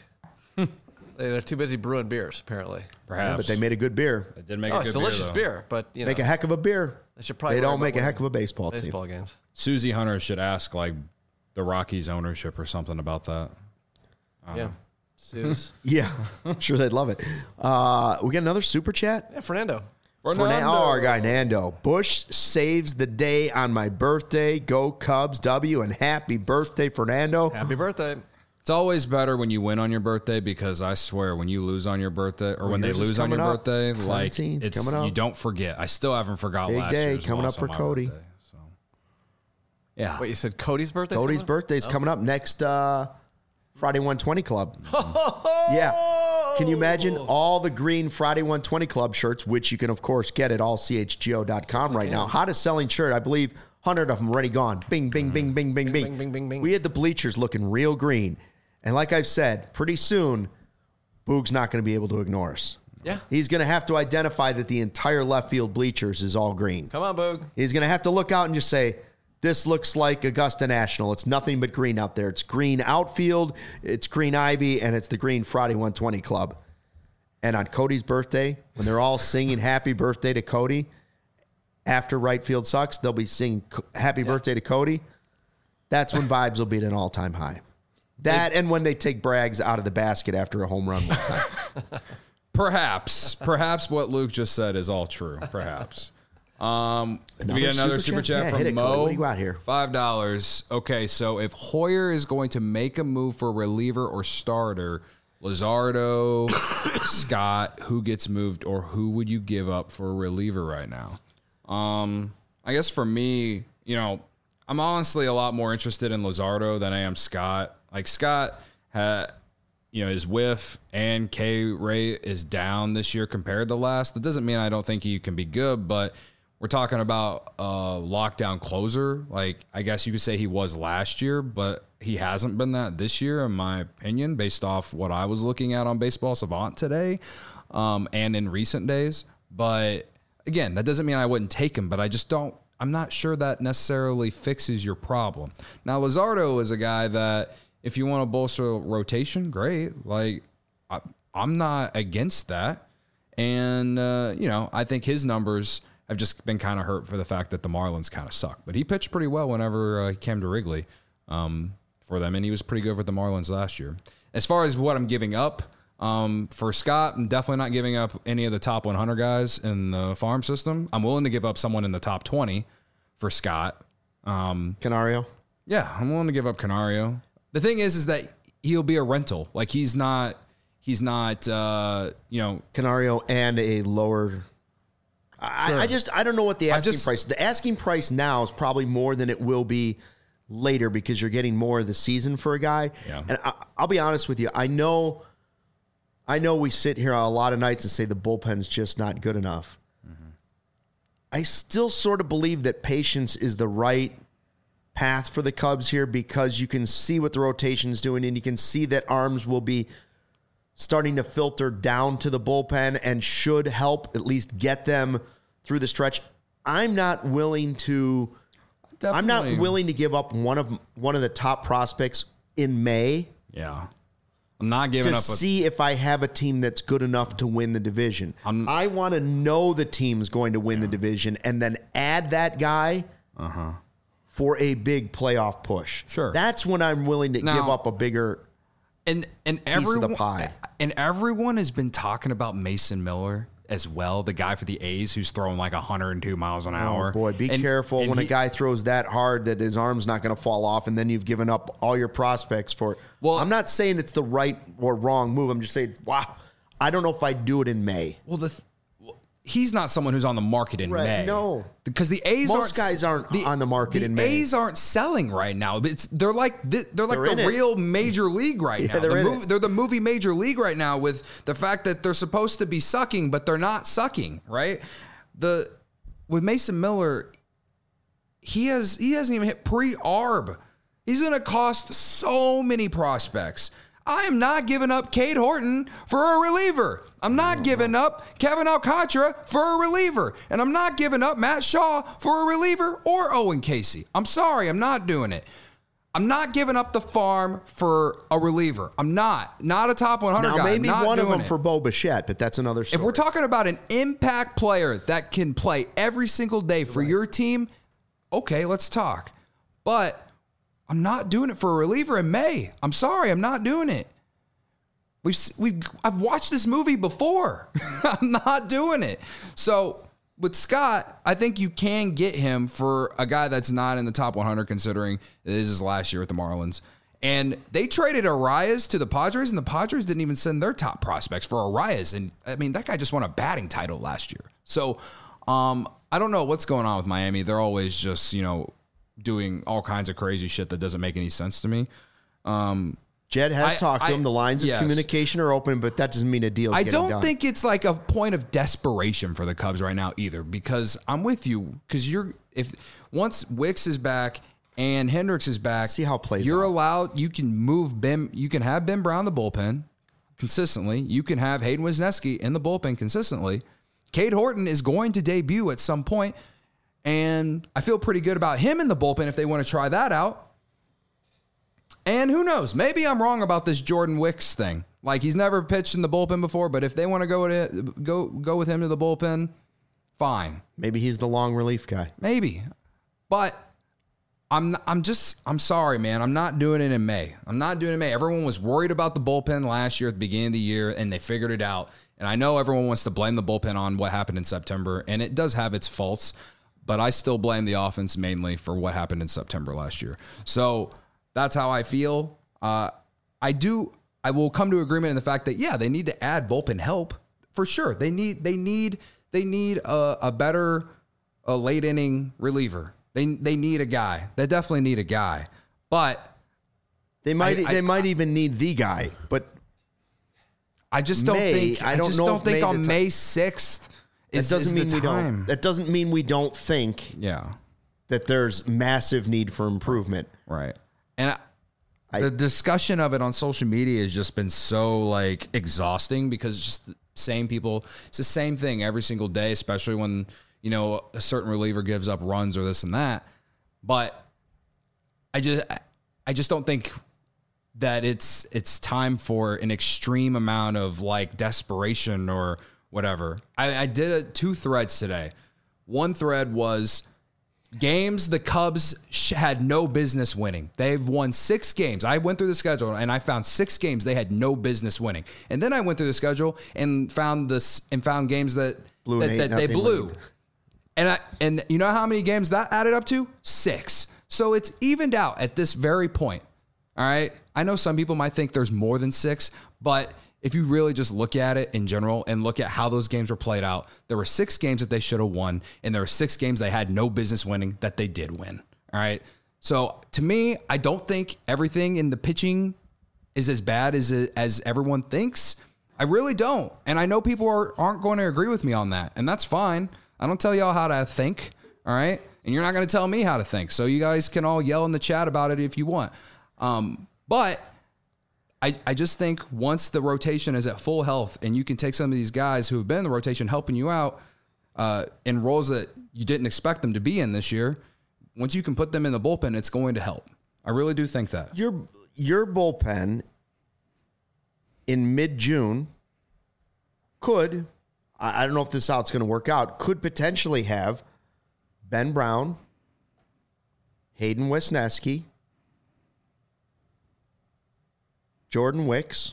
They- They're too busy brewing beers, apparently. Perhaps. Yeah, but they made a good beer. They did make Oh, a it's good delicious beer, beer, though. but you know, Make a heck of a beer. they should probably They worry don't about make a winning heck of a baseball team. baseball games. Susie Hunter should ask, like, the Rockies ownership or something about that. Yeah, Suze. Yeah, I'm sure they'd love it. Uh, we got another super chat. Yeah, Fernando. For Na- oh, our guy Nando. Bush saves the day on my birthday. Go Cubs W and happy birthday, Fernando. Happy birthday. It's always better when you win on your birthday, because I swear when you lose on your birthday or when they yours is lose on your coming up. birthday, like seventeenth, it's coming up. you don't forget. I still haven't forgot Big last day year's coming loss up for on my Cody. birthday, so. Yeah. Wait, you said Cody's birthday? Cody's birthday's coming up next uh, Friday one twenty Club. Yeah. Can you imagine all the green Friday one twenty Club shirts, which you can, of course, get at all C H G O dot com right now. Hottest selling shirt, I believe, one hundred of them already gone. Bing, bing, bing, bing, bing, bing. bing, bing, bing, bing. We had the bleachers looking real green. And like I've said, pretty soon, Boog's not going to be able to ignore us. Yeah. He's going to have to identify that the entire left field bleachers is all green. Come on, Boog. He's going to have to look out and just say, this looks like Augusta National. It's nothing but green out there. It's green outfield, it's green Ivy, and it's the green Friday one twenty Club. And on Cody's birthday, when they're all singing happy birthday to Cody, after right field sucks, they'll be singing happy birthday to Cody. That's when vibes will be at an all-time high. That and when they take Braggs out of the basket after a home run one time. Perhaps, perhaps what Luke just said is all true. Perhaps. Um, we get another super, super chat, chat yeah, from hit it, Mo. Cody. What do you got here? Five dollars. Okay, so if Hoyer is going to make a move for reliever or starter, Luzardo, Scott, who gets moved, or who would you give up for a reliever right now? Um, I guess for me, you know, I'm honestly a lot more interested in Luzardo than I am Scott. Like Scott had. You know, his whiff and K rate is down this year compared to last. That doesn't mean I don't think he can be good, but we're talking about a lockdown closer. Like, I guess you could say he was last year, but he hasn't been that this year, in my opinion, based off what I was looking at on Baseball Savant today um, and in recent days. But again, that doesn't mean I wouldn't take him, but I just don't, I'm not sure that necessarily fixes your problem. Now, Luzardo is a guy that, if you want to bolster rotation, great. Like, I, I'm not against that. And, uh, you know, I think his numbers have just been kind of hurt for the fact that the Marlins kind of suck. But he pitched pretty well whenever uh, he came to Wrigley um, for them, and he was pretty good with the Marlins last year. As far as what I'm giving up, um, for Scott, I'm definitely not giving up any of the top one hundred guys in the farm system. I'm willing to give up someone in the top twenty for Scott. Um, Canario? Yeah, I'm willing to give up Canario. The thing is, is that he'll be a rental. Like he's not, he's not, uh, you know, Canario and a lower. I, Sure. I just, I don't know what the I asking just- price. The asking price now is probably more than it will be later because you're getting more of the season for a guy. Yeah. And I, I'll be honest with you. I know, I know we sit here a lot of nights and say the bullpen's just not good enough. Mm-hmm. I still sort of believe that patience is the right path for the Cubs here because you can see what the rotation is doing and you can see that arms will be starting to filter down to the bullpen and should help at least get them through the stretch. I'm not willing to definitely. I'm not willing to give up one of one of the top prospects in May Yeah. I'm not giving to up. A, see if I have a team that's good enough to win the division. I'm- I want to know the team's going to win the division and then add that guy uh-huh. for a big playoff push. Sure. That's when I'm willing to Now- give up a bigger And and piece of everyone the pie. and everyone has been talking about Mason Miller as well, the guy for the A's who's throwing like one hundred two miles an hour. Oh boy, be And- careful and when he- a guy throws that hard that his arm's not going to fall off, and then you've given up all your prospects for it. Well- I'm not saying it's the right or wrong move. I'm just saying, wow, I don't know if I'd do it in May. Well, the th- well, he's not someone who's on the market in Right, May. no. Because the A's Most aren't guys aren't on the market the in May. A's aren't selling right now. It's they're like thi- they're like They're in the it. real major league right Yeah, now. they're The in mov- it. they're the movie major league right now with the fact that they're supposed to be sucking, but they're not sucking. Right? The with Mason Miller, he has he hasn't even hit pre-arb. He's going to cost so many prospects. I am not giving up Cade Horton for a reliever. I'm not giving up Kevin Alcantara for a reliever. And I'm not giving up Matt Shaw for a reliever or Owen Casey. I'm sorry, I'm not doing it. I'm not giving up the farm for a reliever. I'm not. Not a top one hundred Now, guy. maybe I'm not one of doing them it. for Bo Bichette, but that's another story. If we're talking about an impact player that can play every single day for your team, okay, let's talk. But I'm not doing it for a reliever in May. I'm sorry, I'm not doing it. We've we I've watched this movie before. I'm not doing it. So with Scott, I think you can get him for a guy that's not in the top one hundred, considering it is his last year with the Marlins. And they traded Arias to the Padres, and the Padres didn't even send their top prospects for Arias. And I mean, that guy just won a batting title last year. So um, I don't know what's going on with Miami. They're always just, you know, doing all kinds of crazy shit that doesn't make any sense to me. Um, Jed has I- talked to I- him. The lines of yes. communication are open, but that doesn't mean a deal's I getting don't done. think it's like a point of desperation for the Cubs right now either, because I'm with you. Because you're if once Wicks is back and Hendricks is back, See how it plays You're out. allowed. You can move Ben. You can have Ben Brown in the bullpen consistently. You can have Hayden Wisniewski in the bullpen consistently. Cade Horton is going to debut at some point, and I feel pretty good about him in the bullpen if they want to try that out. And who knows? Maybe I'm wrong about this Jordan Wicks thing. Like, he's never pitched in the bullpen before, but if they want to go to go go with him to the bullpen, fine. Maybe he's the long relief guy. Maybe. But I'm I'm just I'm sorry, man. I'm not doing it in May. I'm not doing it in May. Everyone was worried about the bullpen last year at the beginning of the year, and they figured it out. And I know everyone wants to blame the bullpen on what happened in September, and it does have its faults, but I still blame the offense mainly for what happened in September last year. So that's how I feel. Uh, I do. I will come to agreement in the fact that yeah, they need to add bullpen help for sure. They need. They need. They need a, a better, a late inning reliever. They they need a guy. They definitely need a guy. But they might. I, they I, might even need the guy. But I just don't May, think. I don't I just know don't if think May on the May sixth. Is, that doesn't is mean the we time. don't. That doesn't mean we don't think. Yeah. That there's massive need for improvement. Right. And I, I, the discussion of it on social media has just been so like exhausting because it's just the same people. It's the same thing every single day, especially when, you know, a certain reliever gives up runs or this and that. But I just, I just don't think that it's, it's time for an extreme amount of like desperation or whatever. I, I did a, two threads today. One thread was games the Cubs sh- had no business winning. They've won six games. I went through the schedule and I found six games they had no business winning. And then I went through the schedule and found this and found games that Blew that, an that they eight nothing blew. lead. And I and you know how many games that added up to? Six. So it's evened out at this very point. All right. I know some people might think there's more than six, but if you really just look at it in general and look at how those games were played out, there were six games that they should have won, and there were six games they had no business winning that they did win. All right. So to me, I don't think everything in the pitching is as bad as as everyone thinks. I really don't. And I know people are, aren't going to agree with me on that, and that's fine. I don't tell y'all how to think. All right. And you're not going to tell me how to think. So you guys can all yell in the chat about it if you want. Um, but I, I just think once the rotation is at full health and you can take some of these guys who have been in the rotation helping you out uh, in roles that you didn't expect them to be in this year, once you can put them in the bullpen, it's going to help. I really do think that. Your your bullpen in mid-June could, I I don't know if this is how it's going to work out, could potentially have Ben Brown, Hayden Wesneski, Jordan Wicks,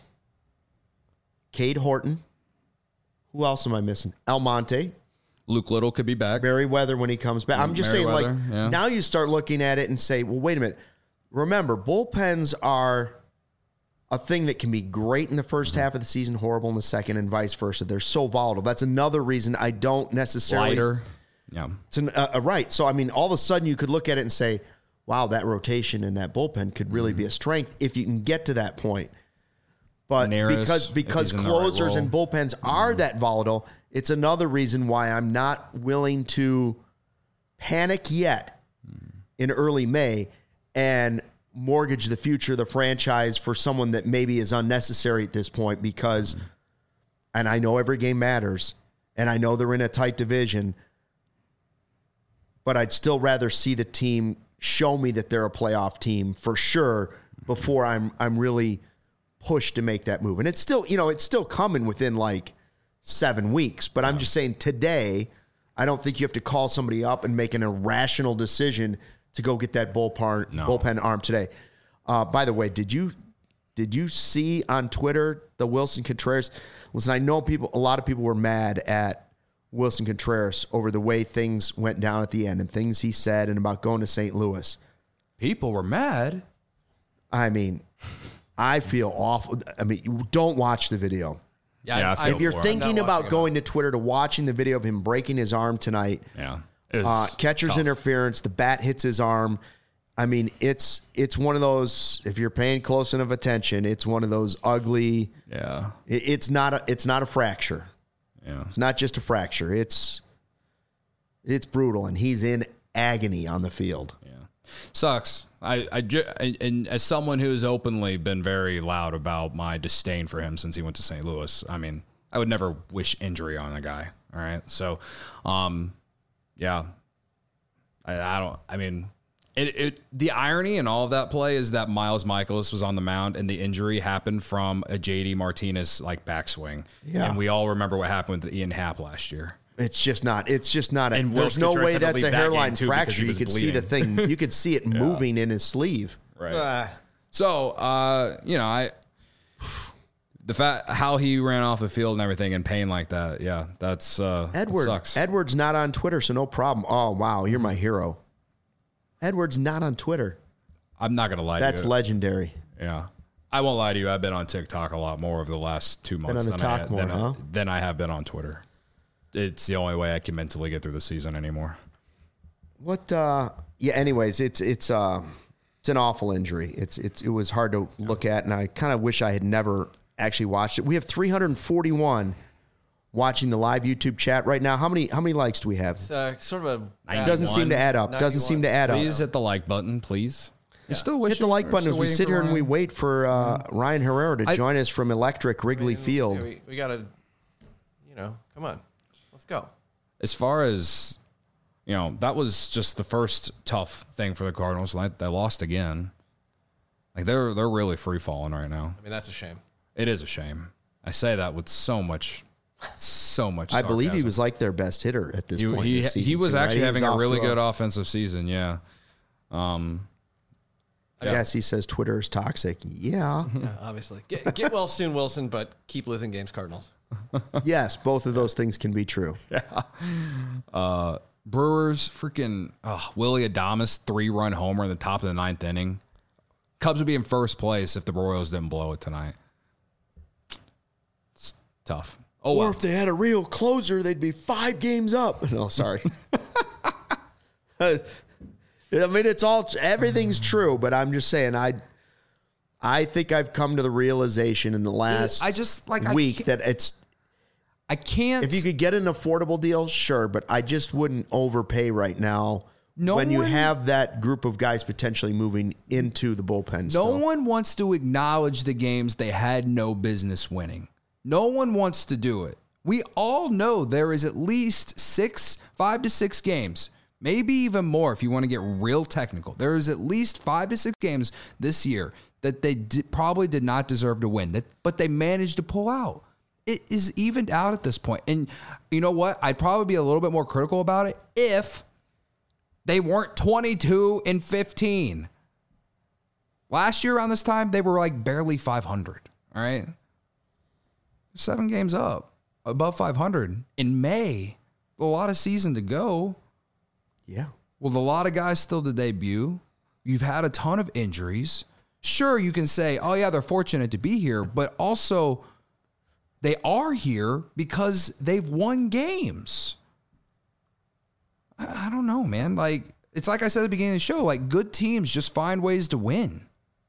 Cade Horton. Who else am I missing? Almonte. Luke Little could be back. Merriweather when he comes back. I'm just saying, like, yeah. Now you start looking at it and say, well, wait a minute. Remember, bullpens are a thing that can be great in the first half of the season, horrible in the second, and vice versa. They're so volatile. That's another reason I don't necessarily. Lighter. Yeah. It's an, uh, uh, right. So, I mean, all of a sudden you could look at it and say, wow, that rotation in that bullpen could really mm-hmm. be a strength if you can get to that point. But Neris, because because closers right and bullpens are mm-hmm. that volatile, it's another reason why I'm not willing to panic yet mm-hmm. in early May and mortgage the future of the franchise for someone that maybe is unnecessary at this point because, mm-hmm. and I know every game matters, and I know they're in a tight division, but I'd still rather see the team show me that they're a playoff team for sure before I'm I'm really pushed to make that move. And it's still, you know, it's still coming within like seven weeks. But I'm just saying today, I don't think you have to call somebody up and make an irrational decision to go get that bullpen no. bullpen arm today. Uh, by the way, did you did you see on Twitter the Wilson Contreras? Listen, I know people, a lot of people were mad at Wilson Contreras over the way things went down at the end and things he said and about going to Saint Louis. People were mad. I mean, I feel awful. I mean, you don't watch the video. Yeah, yeah I, if you're thinking about going to Twitter to watching the video of him breaking his arm tonight, yeah, uh, catcher's tough. interference, the bat hits his arm. I mean, it's it's one of those. If you're paying close enough attention, it's one of those ugly. Yeah, it, it's not a it's not a fracture. Yeah, it's not just a fracture. It's it's brutal, and he's in agony on the field. Yeah, sucks. I, I, and as someone who's openly been very loud about my disdain for him since he went to Saint Louis, I mean, I would never wish injury on a guy. All right. So, um, yeah, I, I don't, I mean, it, it, the irony in all of that play is that Miles Michaelis was on the mound and the injury happened from a J D Martinez like backswing. Yeah. And we all remember what happened with Ian Happ last year. It's just not. It's just not. A, And there's Will no Contreras way had to that's leave a that game, hairline too, because fracture. he You was could see the bleeding. thing. You could see it moving in his sleeve. Right. Ah. So, uh, you know, I the fact how he ran off the field and everything in pain like that, yeah, that's uh, Edward. that sucks. Edward's not on Twitter, so no problem. Oh wow, you're my hero. Edward's not on Twitter. I'm not gonna lie That's to you. legendary. Yeah, I won't lie to you. I've been on TikTok a lot more over the last two months on than, the I, talk more, than, I, huh? than I have been on Twitter. It's the only way I can mentally get through the season anymore. What? uh Yeah. Anyways, it's it's uh it's an awful injury. It's it's it was hard to look at, and I kind of wish I had never actually watched it. We have three hundred forty-one watching the live YouTube chat right now. How many how many likes do we have? It's uh, sort of a. It doesn't seem to add up. Doesn't seem to add up. Please hit the like button, please. You still wish Hit the like button as we sit here and we wait for uh, Ryan Herrera to I- join us from Electric Wrigley Field. Yeah, we, we got to, you know, come on. Let's go. As far as, you know, that was just the first tough thing for the Cardinals. Like, they lost again. Like, they're they're really free falling right now. I mean, that's a shame. It is a shame. I say that with so much, so much. I believe he sarcasm. was like their best hitter at this He point. he, this season he was too, right? actually He having a off really to good offensive season. Yeah. Um. Yes, he says Twitter is toxic. Yeah. Yeah, obviously. Get, get well soon, Wilson, but keep losing games, Cardinals. Yes, both of those things can be true. Uh, Brewers freaking uh, Willie Adames three run homer in the top of the ninth inning. Cubs would be in first place if the Royals didn't blow it tonight. It's tough. Oh, Or well. if they had a real closer, they'd be five games up. No, sorry. I mean, it's all everything's true, but I'm just saying, I, I think I've come to the realization in the last I just like I week can't- that it's I can't. if you could get an affordable deal, sure, but I just wouldn't overpay right now. No when you one- have that group of guys potentially moving into the bullpen. No still. one wants to acknowledge the games they had no business winning. No one wants to do it. We all know there is at least six, five to six games, maybe even more if you want to get real technical. There is at least five to six games this year that they di- probably did not deserve to win, that, but they managed to pull out. It is evened out at this point. And you know what? I'd probably be a little bit more critical about it if they weren't twenty-two and fifteen. Last year around this time, they were like barely five hundred. All right. Seven games up, above five hundred in May. A lot of season to go. Yeah. With a lot of guys still to debut. You've had a ton of injuries. Sure, you can say, oh, yeah, they're fortunate to be here, but also they are here because they've won games. I, I don't know, man. Like, it's like I said at the beginning of the show, like, good teams just find ways to win.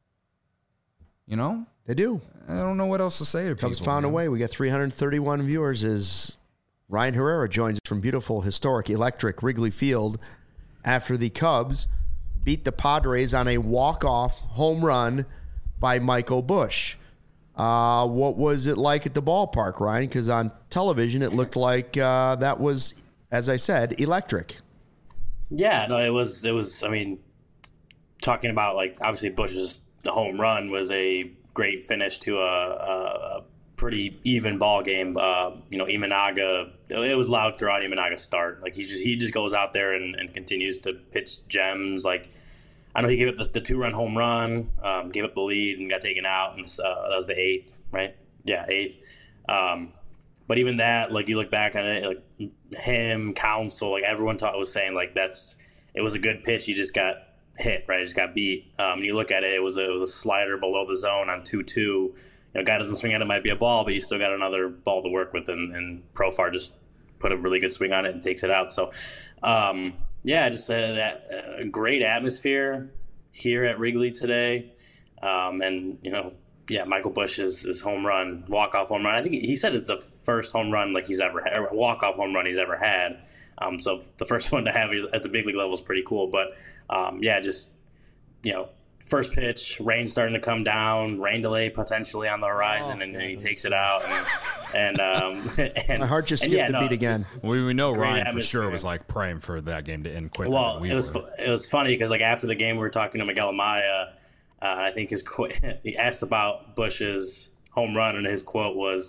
You know? They do. I don't know what else to say to Cubs people. found a man. way. We got three hundred thirty-one viewers as Ryan Herrera joins us from beautiful, historic, electric Wrigley Field after the Cubs beat the Padres on a walk-off home run by Michael Busch. Uh, what was it like at the ballpark, Ryan? Because on television, it looked like uh, that was, as I said, electric. Yeah, no, it was. It was. I mean, talking about like obviously Bush's home run was a great finish to a, a, a pretty even ball game. Uh, you know, Imanaga. It was loud throughout Imanaga's start. Like he just he just goes out there and, and continues to pitch gems. Like I know he gave up the, the two run home run, um, gave up the lead and got taken out, and uh, that was the eighth, right? Yeah, eighth. Um, But even that, like you look back on it, like him, Counsell, like everyone thought was saying, like that's it was a good pitch. He just got hit, right? He just got beat. Um, and you look at it, it was a, it was a slider below the zone on two two. You know, guy doesn't swing at it, might be a ball, but you still got another ball to work with, and, and Profar just put a really good swing on it and takes it out. So, um, yeah, just uh, that uh, great atmosphere here at Wrigley today, um, and you know. Yeah, Michael Busch's his home run, walk-off home run. I think he said it's the first home run like he's ever had, or walk-off home run he's ever had. Um, so the first one to have at the big league level is pretty cool. But, um, yeah, just, you know, first pitch, rain starting to come down, rain delay potentially on the horizon, oh, and, and he takes it out. And, and, um, and my heart just and, skipped yeah, the no, beat again. We, we know great Ryan for atmosphere. sure was like praying for that game to end quicker Well, than we it was were. it was funny because like after the game we were talking to Miguel Amaya. Uh, I think his quote, he asked about Busch's home run, and his quote was,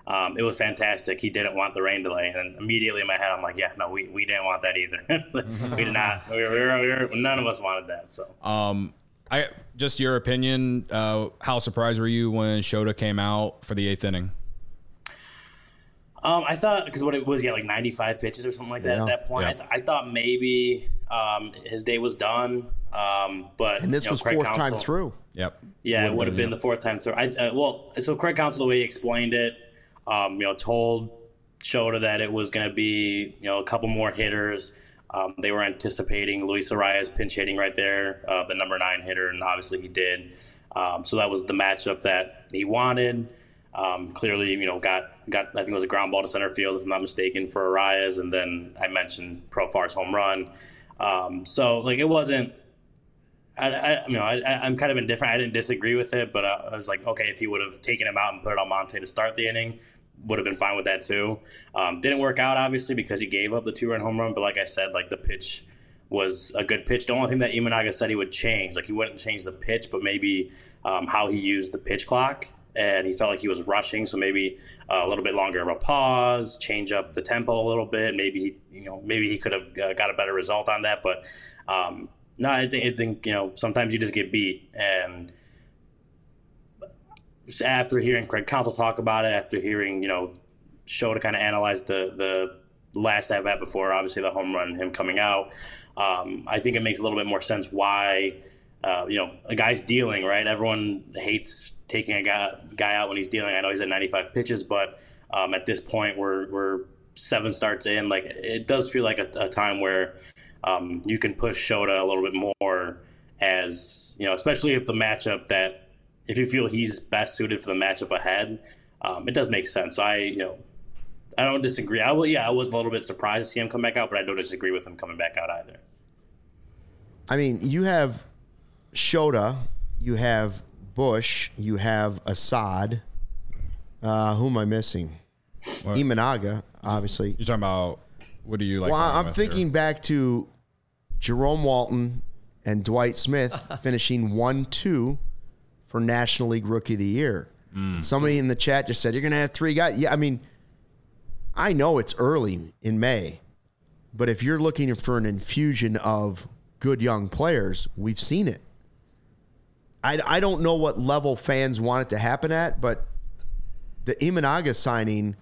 Um, it was fantastic. He didn't want the rain delay, and immediately in my head, I'm like, yeah, no, we, we didn't want that either. we did not. We were, we were, we were, none of us wanted that. So, um, I just your opinion. Uh, how surprised were you when Shota came out for the eighth inning? Um, I thought because what it was, yeah, like ninety-five pitches or something like that Yeah. at that point. Yeah. I, th- I thought maybe um, his day was done. Um, but And this you know, was Craig fourth Counsell, time through. Yep. Yeah, it Would've would have been, been the fourth time through. I, uh, well, so Craig Counsell, the way he explained it, um, you know, told Shota that it was going to be, you know, a couple more hitters. Um, they were anticipating Luis Arias pinch hitting right there, uh, the number nine hitter, and obviously he did. Um, so that was the matchup that he wanted. Um, clearly, you know, got got I think it was a ground ball to center field, if I'm not mistaken, for Arias, and then I mentioned Profar's home run. Um, so like it wasn't. I, I you know I, I'm kind of indifferent. I didn't disagree with it, but I was like, okay, if he would have taken him out and put it on Monte to start the inning, would have been fine with that too. Um, didn't work out obviously because he gave up the two run home run, but like I said, like the pitch was a good pitch. The only thing that Imanaga said he would change, like he wouldn't change the pitch, but maybe um, how he used the pitch clock. And he felt like he was rushing, so maybe uh, a little bit longer of a pause, change up the tempo a little bit. Maybe he, you know, maybe he could have uh, got a better result on that. But um, no, I think, I think you know sometimes you just get beat. And after hearing Craig Counsell talk about it, after hearing you know Shota kind of analyze the the last at bat before obviously the home run, him coming out, um, I think it makes a little bit more sense why. Uh, you know, a guy's dealing, right? Everyone hates taking a guy, guy out when he's dealing. I know he's at ninety-five pitches, but um, at this point, we're we're seven starts in. Like it does feel like a, a time where um, you can push Shota a little bit more, as you know, especially if the matchup that if you feel he's best suited for the matchup ahead, um, it does make sense. I you know, I don't disagree. I will, yeah, I was a little bit surprised to see him come back out, but I don't disagree with him coming back out either. I mean, you have Shota, you have Bush, you have Assad. Uh, who am I missing? What? Imanaga, obviously. You're talking about what do you like? Well, running I'm with thinking here? back to Jerome Walton and Dwight Smith finishing one two for National League Rookie of the Year. Mm. Somebody in the chat just said, you're going to have three guys. Yeah, I mean, I know it's early in May, but if you're looking for an infusion of good young players, we've seen it. I, I don't know what level fans want it to happen at, but the Imanaga signing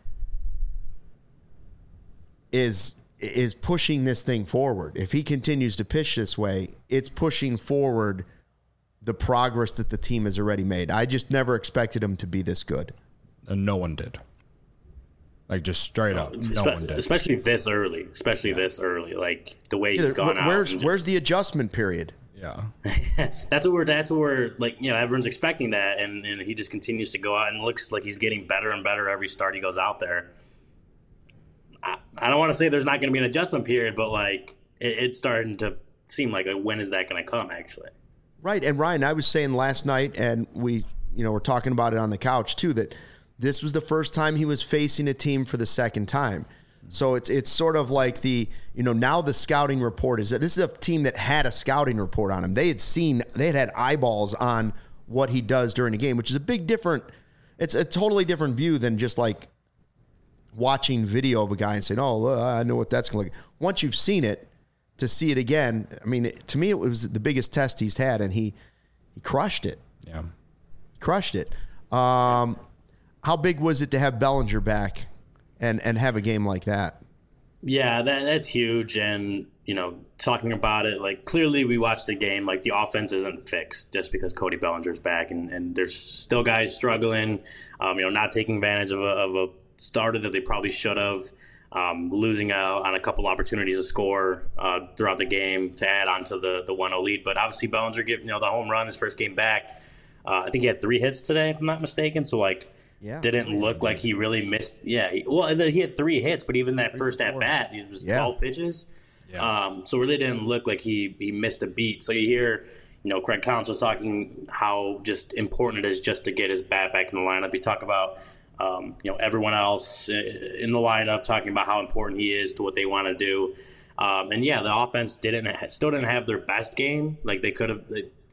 is is pushing this thing forward. If he continues to pitch this way, it's pushing forward the progress that the team has already made. I just never expected him to be this good. And no one did. Like just straight up, no Espe- one did. Especially this early. Especially yeah. this early. Like the way he's gone out. Where's just, where's the adjustment period? Yeah, that's what we're. That's what we're like. You know, everyone's expecting that, and, and he just continues to go out and looks like he's getting better and better every start he goes out there. I, I don't want to say there's not going to be an adjustment period, but like it, it's starting to seem like a, when is that going to come? Actually, right. And Ryan, I was saying last night, and we, you know, we're talking about it on the couch too, that this was the first time he was facing a team for the second time. So it's it's sort of like the, you know, now the scouting report is that this is a team that had a scouting report on him. They had seen, they had had eyeballs on what he does during a game, which is a big different, it's a totally different view than just like watching video of a guy and saying, oh, look, I know what that's going to look like. Once you've seen it, to see it again, I mean, it, to me, it was the biggest test he's had, and he he crushed it. yeah, He crushed it. Um, how big was it to have Bellinger back and, and have a game like that? yeah, that that's huge. And you know, talking about it, like clearly we watched the game. Like the offense isn't fixed just because Cody Bellinger's back, and, and there's still guys struggling. Um, you know, not taking advantage of a, of a starter that they probably should have. Um, losing out on a couple opportunities to score uh, throughout the game to add on to the the one oh lead. But obviously Bellinger get you know the home run his first game back. Uh, I think he had three hits today, if I'm not mistaken. So like, Yeah. didn't Yeah, look he like did. he really missed. Yeah, he, well he had three hits, but even that first at bat, it was Yeah. twelve pitches. yeah. Um, so it really didn't look like he he missed a beat. So you hear, you know, Craig Counsell talking how just important it is just to get his bat back in the lineup. You talk about, um, you know, everyone else in the lineup talking about how important he is to what they want to do. Um, and yeah, the offense didn't still didn't have their best game. Like they could have, they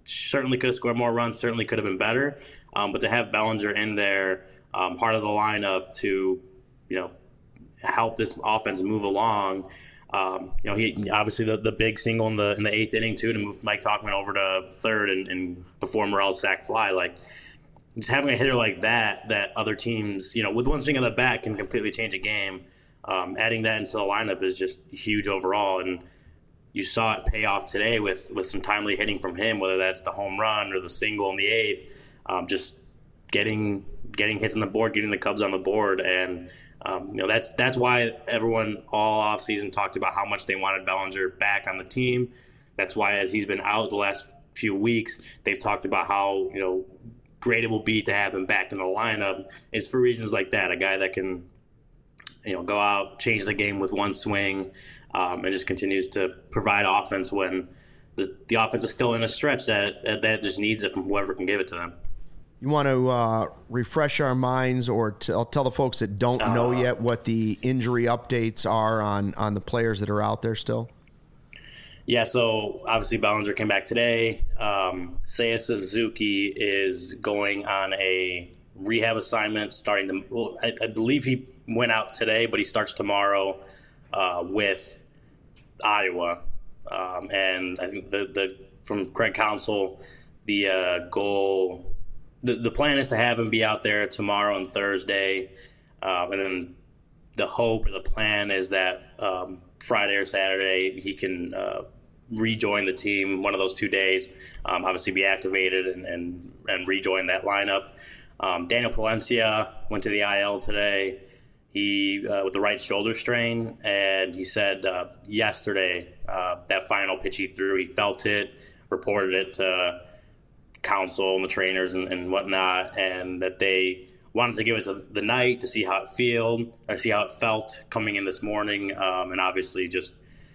certainly could have scored more runs, certainly could have been better. Um, but to have Bellinger in there, um, part of the lineup to, you know, help this offense move along. Um, you know, he obviously the, the big single in the in the eighth inning too to move Mike Tauchman over to third and, and before Morel's sac fly. Like, just having a hitter like that, that other teams, you know, with one swing of the bat can completely change a game. Um, adding that into the lineup is just huge overall, and you saw it pay off today with with some timely hitting from him, whether that's the home run or the single in the eighth. Um, just getting getting hits on the board, getting the Cubs on the board, and um, you know that's that's why everyone all offseason talked about how much they wanted Bellinger back on the team. That's why, as he's been out the last few weeks, they've talked about how, you know, great it will be to have him back in the lineup. Is for reasons like that, a guy that can, you know, go out, change the game with one swing, um, and just continues to provide offense when the the offense is still in a stretch that that just needs it from whoever can give it to them. You want to uh, refresh our minds or tell, tell the folks that don't uh, know yet what the injury updates are on, on the players that are out there still? Yeah, so obviously Bellinger came back today. Um, Seiya Suzuki is going on a rehab assignment starting to, well, I, I believe he went out today, but he starts tomorrow uh, with Iowa. Um, and I think the, the from Craig Counsell, the uh, goal... The the plan is to have him be out there tomorrow and Thursday, um, and then the hope or the plan is that um, Friday or Saturday he can uh, rejoin the team one of those two days, um, obviously be activated and, and, and rejoin that lineup. Um, Daniel Palencia went to the I L today. He uh, with the right shoulder strain, and he said uh, yesterday uh, that final pitch he threw, he felt it, reported it to Counsell and the trainers and, and whatnot, and that they wanted to give it to the night to see how it felt, or see how it felt coming in this morning, um, and obviously just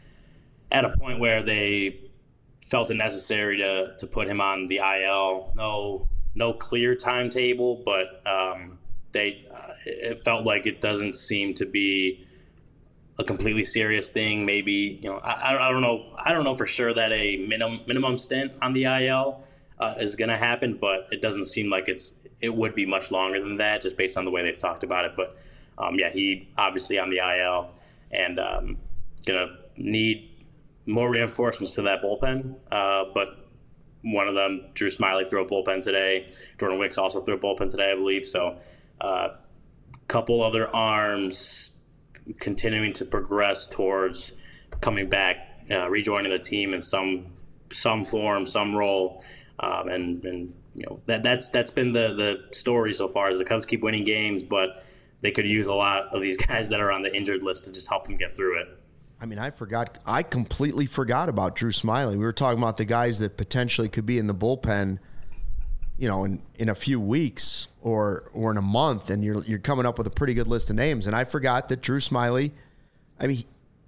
at a point where they felt it necessary to to put him on the I L. No, no clear timetable, but um, they uh, it felt like it doesn't seem to be a completely serious thing. Maybe, you know, I, I don't know, I don't know for sure that a minimum minimum stint on the I L Uh, is going to happen, but it doesn't seem like it's it would be much longer than that, just based on the way they've talked about it. But um, yeah, he obviously on the I L and um, going to need more reinforcements to that bullpen. Uh, but one of them, Drew Smyly, threw a bullpen today. Jordan Wicks also threw a bullpen today, I believe. So a uh, couple other arms continuing to progress towards coming back, uh, rejoining the team in some some form, some role. Um, and, and you know that that's that's been the, the story so far. As the Cubs keep winning games, but they could use a lot of these guys that are on the injured list to just help them get through it. I mean, I forgot. I completely forgot about Drew Smyly. We were talking about the guys that potentially could be in the bullpen, you know, in, in a few weeks or or in a month, and you're you're coming up with a pretty good list of names. And I forgot that Drew Smyly, I mean,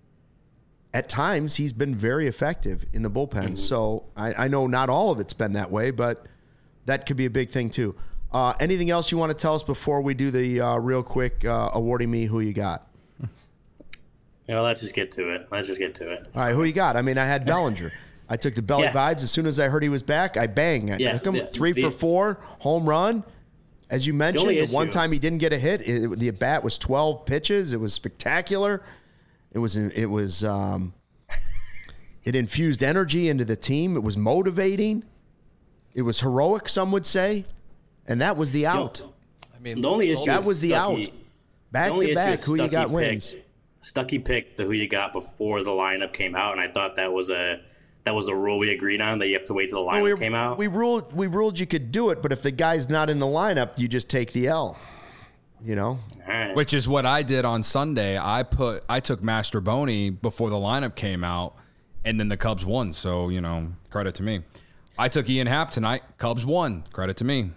at times he's been very effective in the bullpen. Mm-hmm. So I, I know not all of it's been that way, but that could be a big thing too. Uh, anything else you want to tell us before we do the uh, real quick uh, awarding me who you got? You know, let's just get to it. Let's just get to it. All right, who you got? I mean, I had Bellinger. I took the belly yeah. vibes. As soon as I heard he was back, I bang. I yeah, took him the, three the, for four, home run. As you mentioned, the, the one time he didn't get a hit, it, the at bat was twelve pitches. It was spectacular. It was it was um, it infused energy into the team. It was motivating. It was heroic, some would say, and that was the out. I mean, the only issue that was the out. Back to back, who you got wins. Stuckey picked the who you got before the lineup came out, and I thought that was a that was a rule we agreed on, that you have to wait till the lineup no, we, came out. We ruled we ruled you could do it, but if the guy's not in the lineup, you just take the L. You know, right. Which is what I did on Sunday. I put I took Mastroboni before the lineup came out, and then the Cubs won. So, you know, credit to me. I took Ian Happ tonight. Cubs won. Credit to me.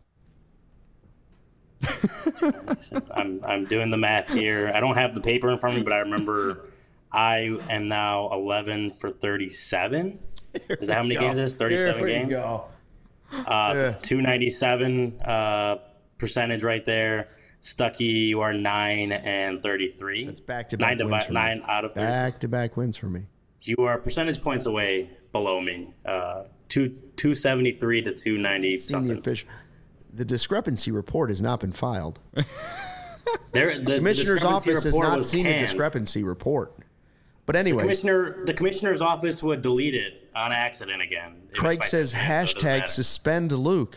I'm I'm doing the math here. I don't have the paper in front of me, but I remember I am now eleven for thirty-seven. Is that how many go. games it is? thirty-seven games. Here we go. Uh, so it's two ninety-seven uh, percentage right there. Stuckey, you are nine and thirty-three. That's back to back nine, wins divi- for nine me. out of thirty. Back to back wins for me. you are percentage points away below me. Uh, two two seventy three to two ninety something. The, official, the discrepancy report has not been filed. There, the commissioner's office has not seen canned. a discrepancy report. But anyway, the commissioner, the commissioner's office would delete it on accident again. Craig says hashtag so suspend Luke.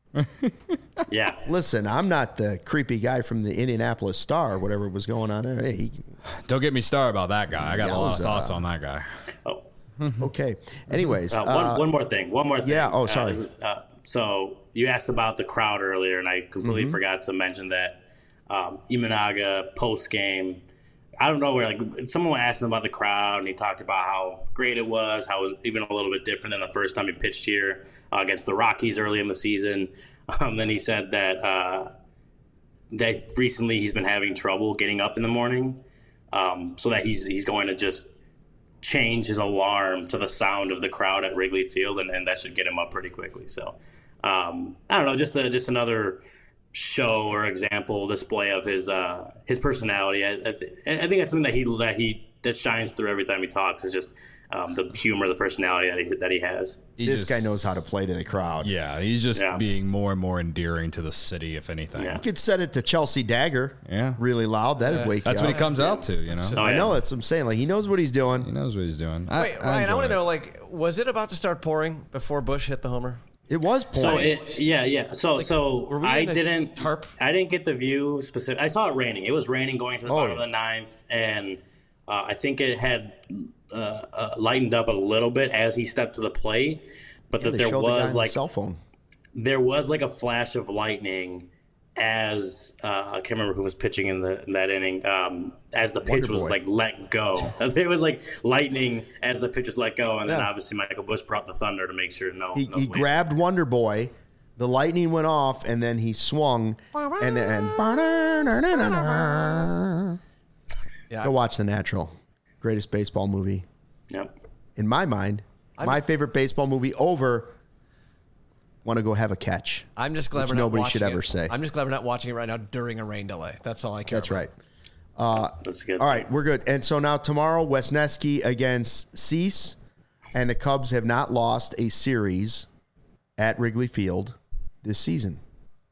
Yeah. Listen, I'm not the creepy guy from the Indianapolis Star, whatever was going on there. Hey, he, don't get me started about that guy. I got a lot of thoughts uh, on that guy. Oh. Okay. Anyways, uh, one, uh, one more thing. One more thing. Yeah. Oh, sorry. Uh, uh, so you asked about the crowd earlier, and I completely Mm-hmm. forgot to mention that um, Imanaga post game. I don't know where, like, someone asked him about the crowd, and he talked about how great it was, how it was even a little bit different than the first time he pitched here uh, against the Rockies early in the season. Um, then he said that uh, that recently he's been having trouble getting up in the morning, um, so that he's he's going to just change his alarm to the sound of the crowd at Wrigley Field, and, and that should get him up pretty quickly. So um, I don't know, just a, just another show or example display of his uh his personality. I, I, th- I think that's something that he that he that shines through every time he talks is just um, the humor, the personality that he that he has. He this just, guy knows how to play to the crowd. Yeah, he's just Yeah. being more and more endearing to the city, if anything. Yeah. You could set it to Chelsea Dagger. Yeah. Really loud. That'd Yeah. wake That's you what up. he comes out to, you know. Oh, I yeah. know. That's what I'm saying. Like, he knows what he's doing. He knows what he's doing. Wait, I, Ryan, I, enjoy want to it. know, like, was it about to start pouring before Bush hit the homer? It was So pouring. it, yeah, yeah. So so were we I in a didn't tarp? I didn't get the view specific. I saw it raining. It was raining going to the Oh, bottom yeah. of the ninth, and uh, I think it had uh, uh, lightened up a little bit as he stepped to the plate. But Yeah, that they there showed the guy was on like the cell phone. there was like a flash of lightning as uh, I can't remember who was pitching in the in that inning. Um, as the pitch Wonder was Boy. like let go, there was like lightning as the pitch was let go, and then Yeah. obviously Michael Bush brought the thunder to make sure no. He, no he waste. grabbed Wonder Boy. The lightning went off, and then he swung, and and Yeah. go watch The Natural, greatest baseball movie Yep. in my mind. my favorite baseball movie over. Want to go have a catch? I'm just glad Which we're not nobody watching should ever it. say. I'm just glad we're not watching it right now during a rain delay. That's all I care That's about. right. Uh, That's, that's good. All right, we're good. And so now tomorrow, Wesneski against Cease, and the Cubs have not lost a series at Wrigley Field this season.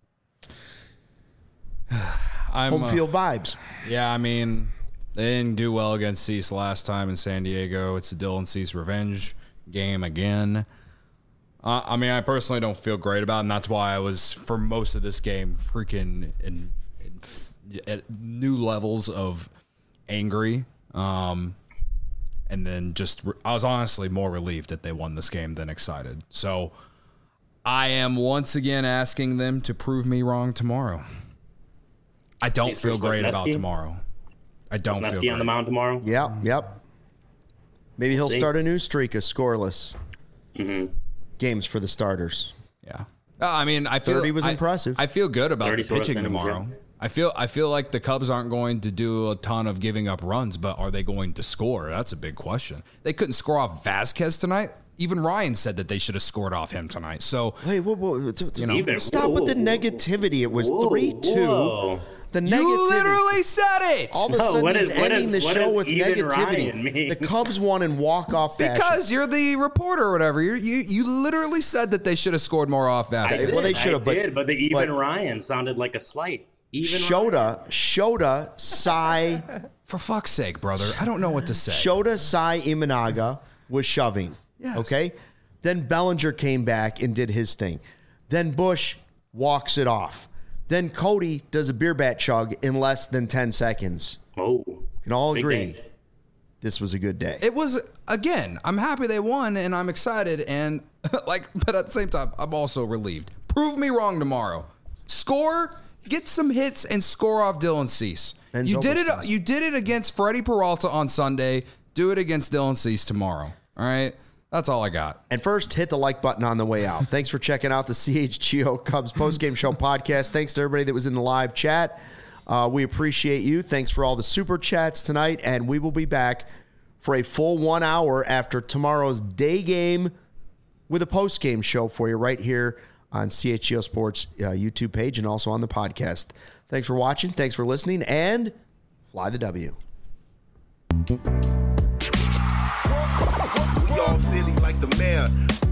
I'm, Home uh, field vibes. Yeah, I mean, they didn't do well against Cease last time in San Diego. It's a Dylan Cease revenge game again. Uh, I mean, I personally don't feel great about it, and that's why I was, for most of this game, freaking in, in, at new levels of angry. Um, and then just, I was honestly more relieved that they won this game than excited. So I am once again asking them to prove me wrong tomorrow. I don't Cease feel versus great about Wesneski? tomorrow. I don't feel Wesneski great. on the mound tomorrow. Yep, yep. Maybe he'll See? start a new streak of scoreless Mm-hmm. games for the starters. Yeah. Uh, I mean, I feel thirty was I- impressive. I feel good about thirty the scoreless pitching innings, tomorrow. yeah. I feel I feel like the Cubs aren't going to do a ton of giving up runs, but are they going to score? That's a big question. They couldn't score off Vasquez tonight. Even Ryan said that they should have scored off him tonight. So Hey, whoa, whoa, t- t- know. Even- stop with the whoa, negativity. It was whoa, three two. whoa. The you negativity. literally said it. All of a No, sudden, what he's is- what ending is- the what show does with even negativity. Ryan mean? The Cubs won in walk-off fashion. Because you're the reporter or whatever. You're, you you literally said that they should have scored more off I Vasquez. did, well, they I should've, but- did, but the even but- Ryan sounded like a slight. Even Ryan. Shota, Shota, Sai, For fuck's sake, brother. I don't know what to say. Shota, Sai, Imanaga was shoving. Yes. Okay? Then Bellinger came back and did his thing. Then Bush walks it off. Then Cody does a beer bat chug in less than ten seconds. Oh, Can all big agree day. this was a good day. It was, again, I'm happy they won and I'm excited and like, but at the same time, I'm also relieved. Prove me wrong tomorrow. Score, get some hits and score off Dylan Cease. And You did it. Zobrist. You did it against Freddie Peralta on Sunday. Do it against Dylan Cease tomorrow. All right, that's all I got. And first, hit the like button on the way out. Thanks for checking out the C H G O Cubs postgame show podcast. Thanks to everybody that was in the live chat. Uh, we appreciate you. Thanks for all the super chats tonight. And we will be back for a full one hour after tomorrow's day game with a postgame show for you right here on C H G O Sports uh, YouTube page and also on the podcast. Thanks for watching. Thanks for listening. And fly the W. all silly like the mayor.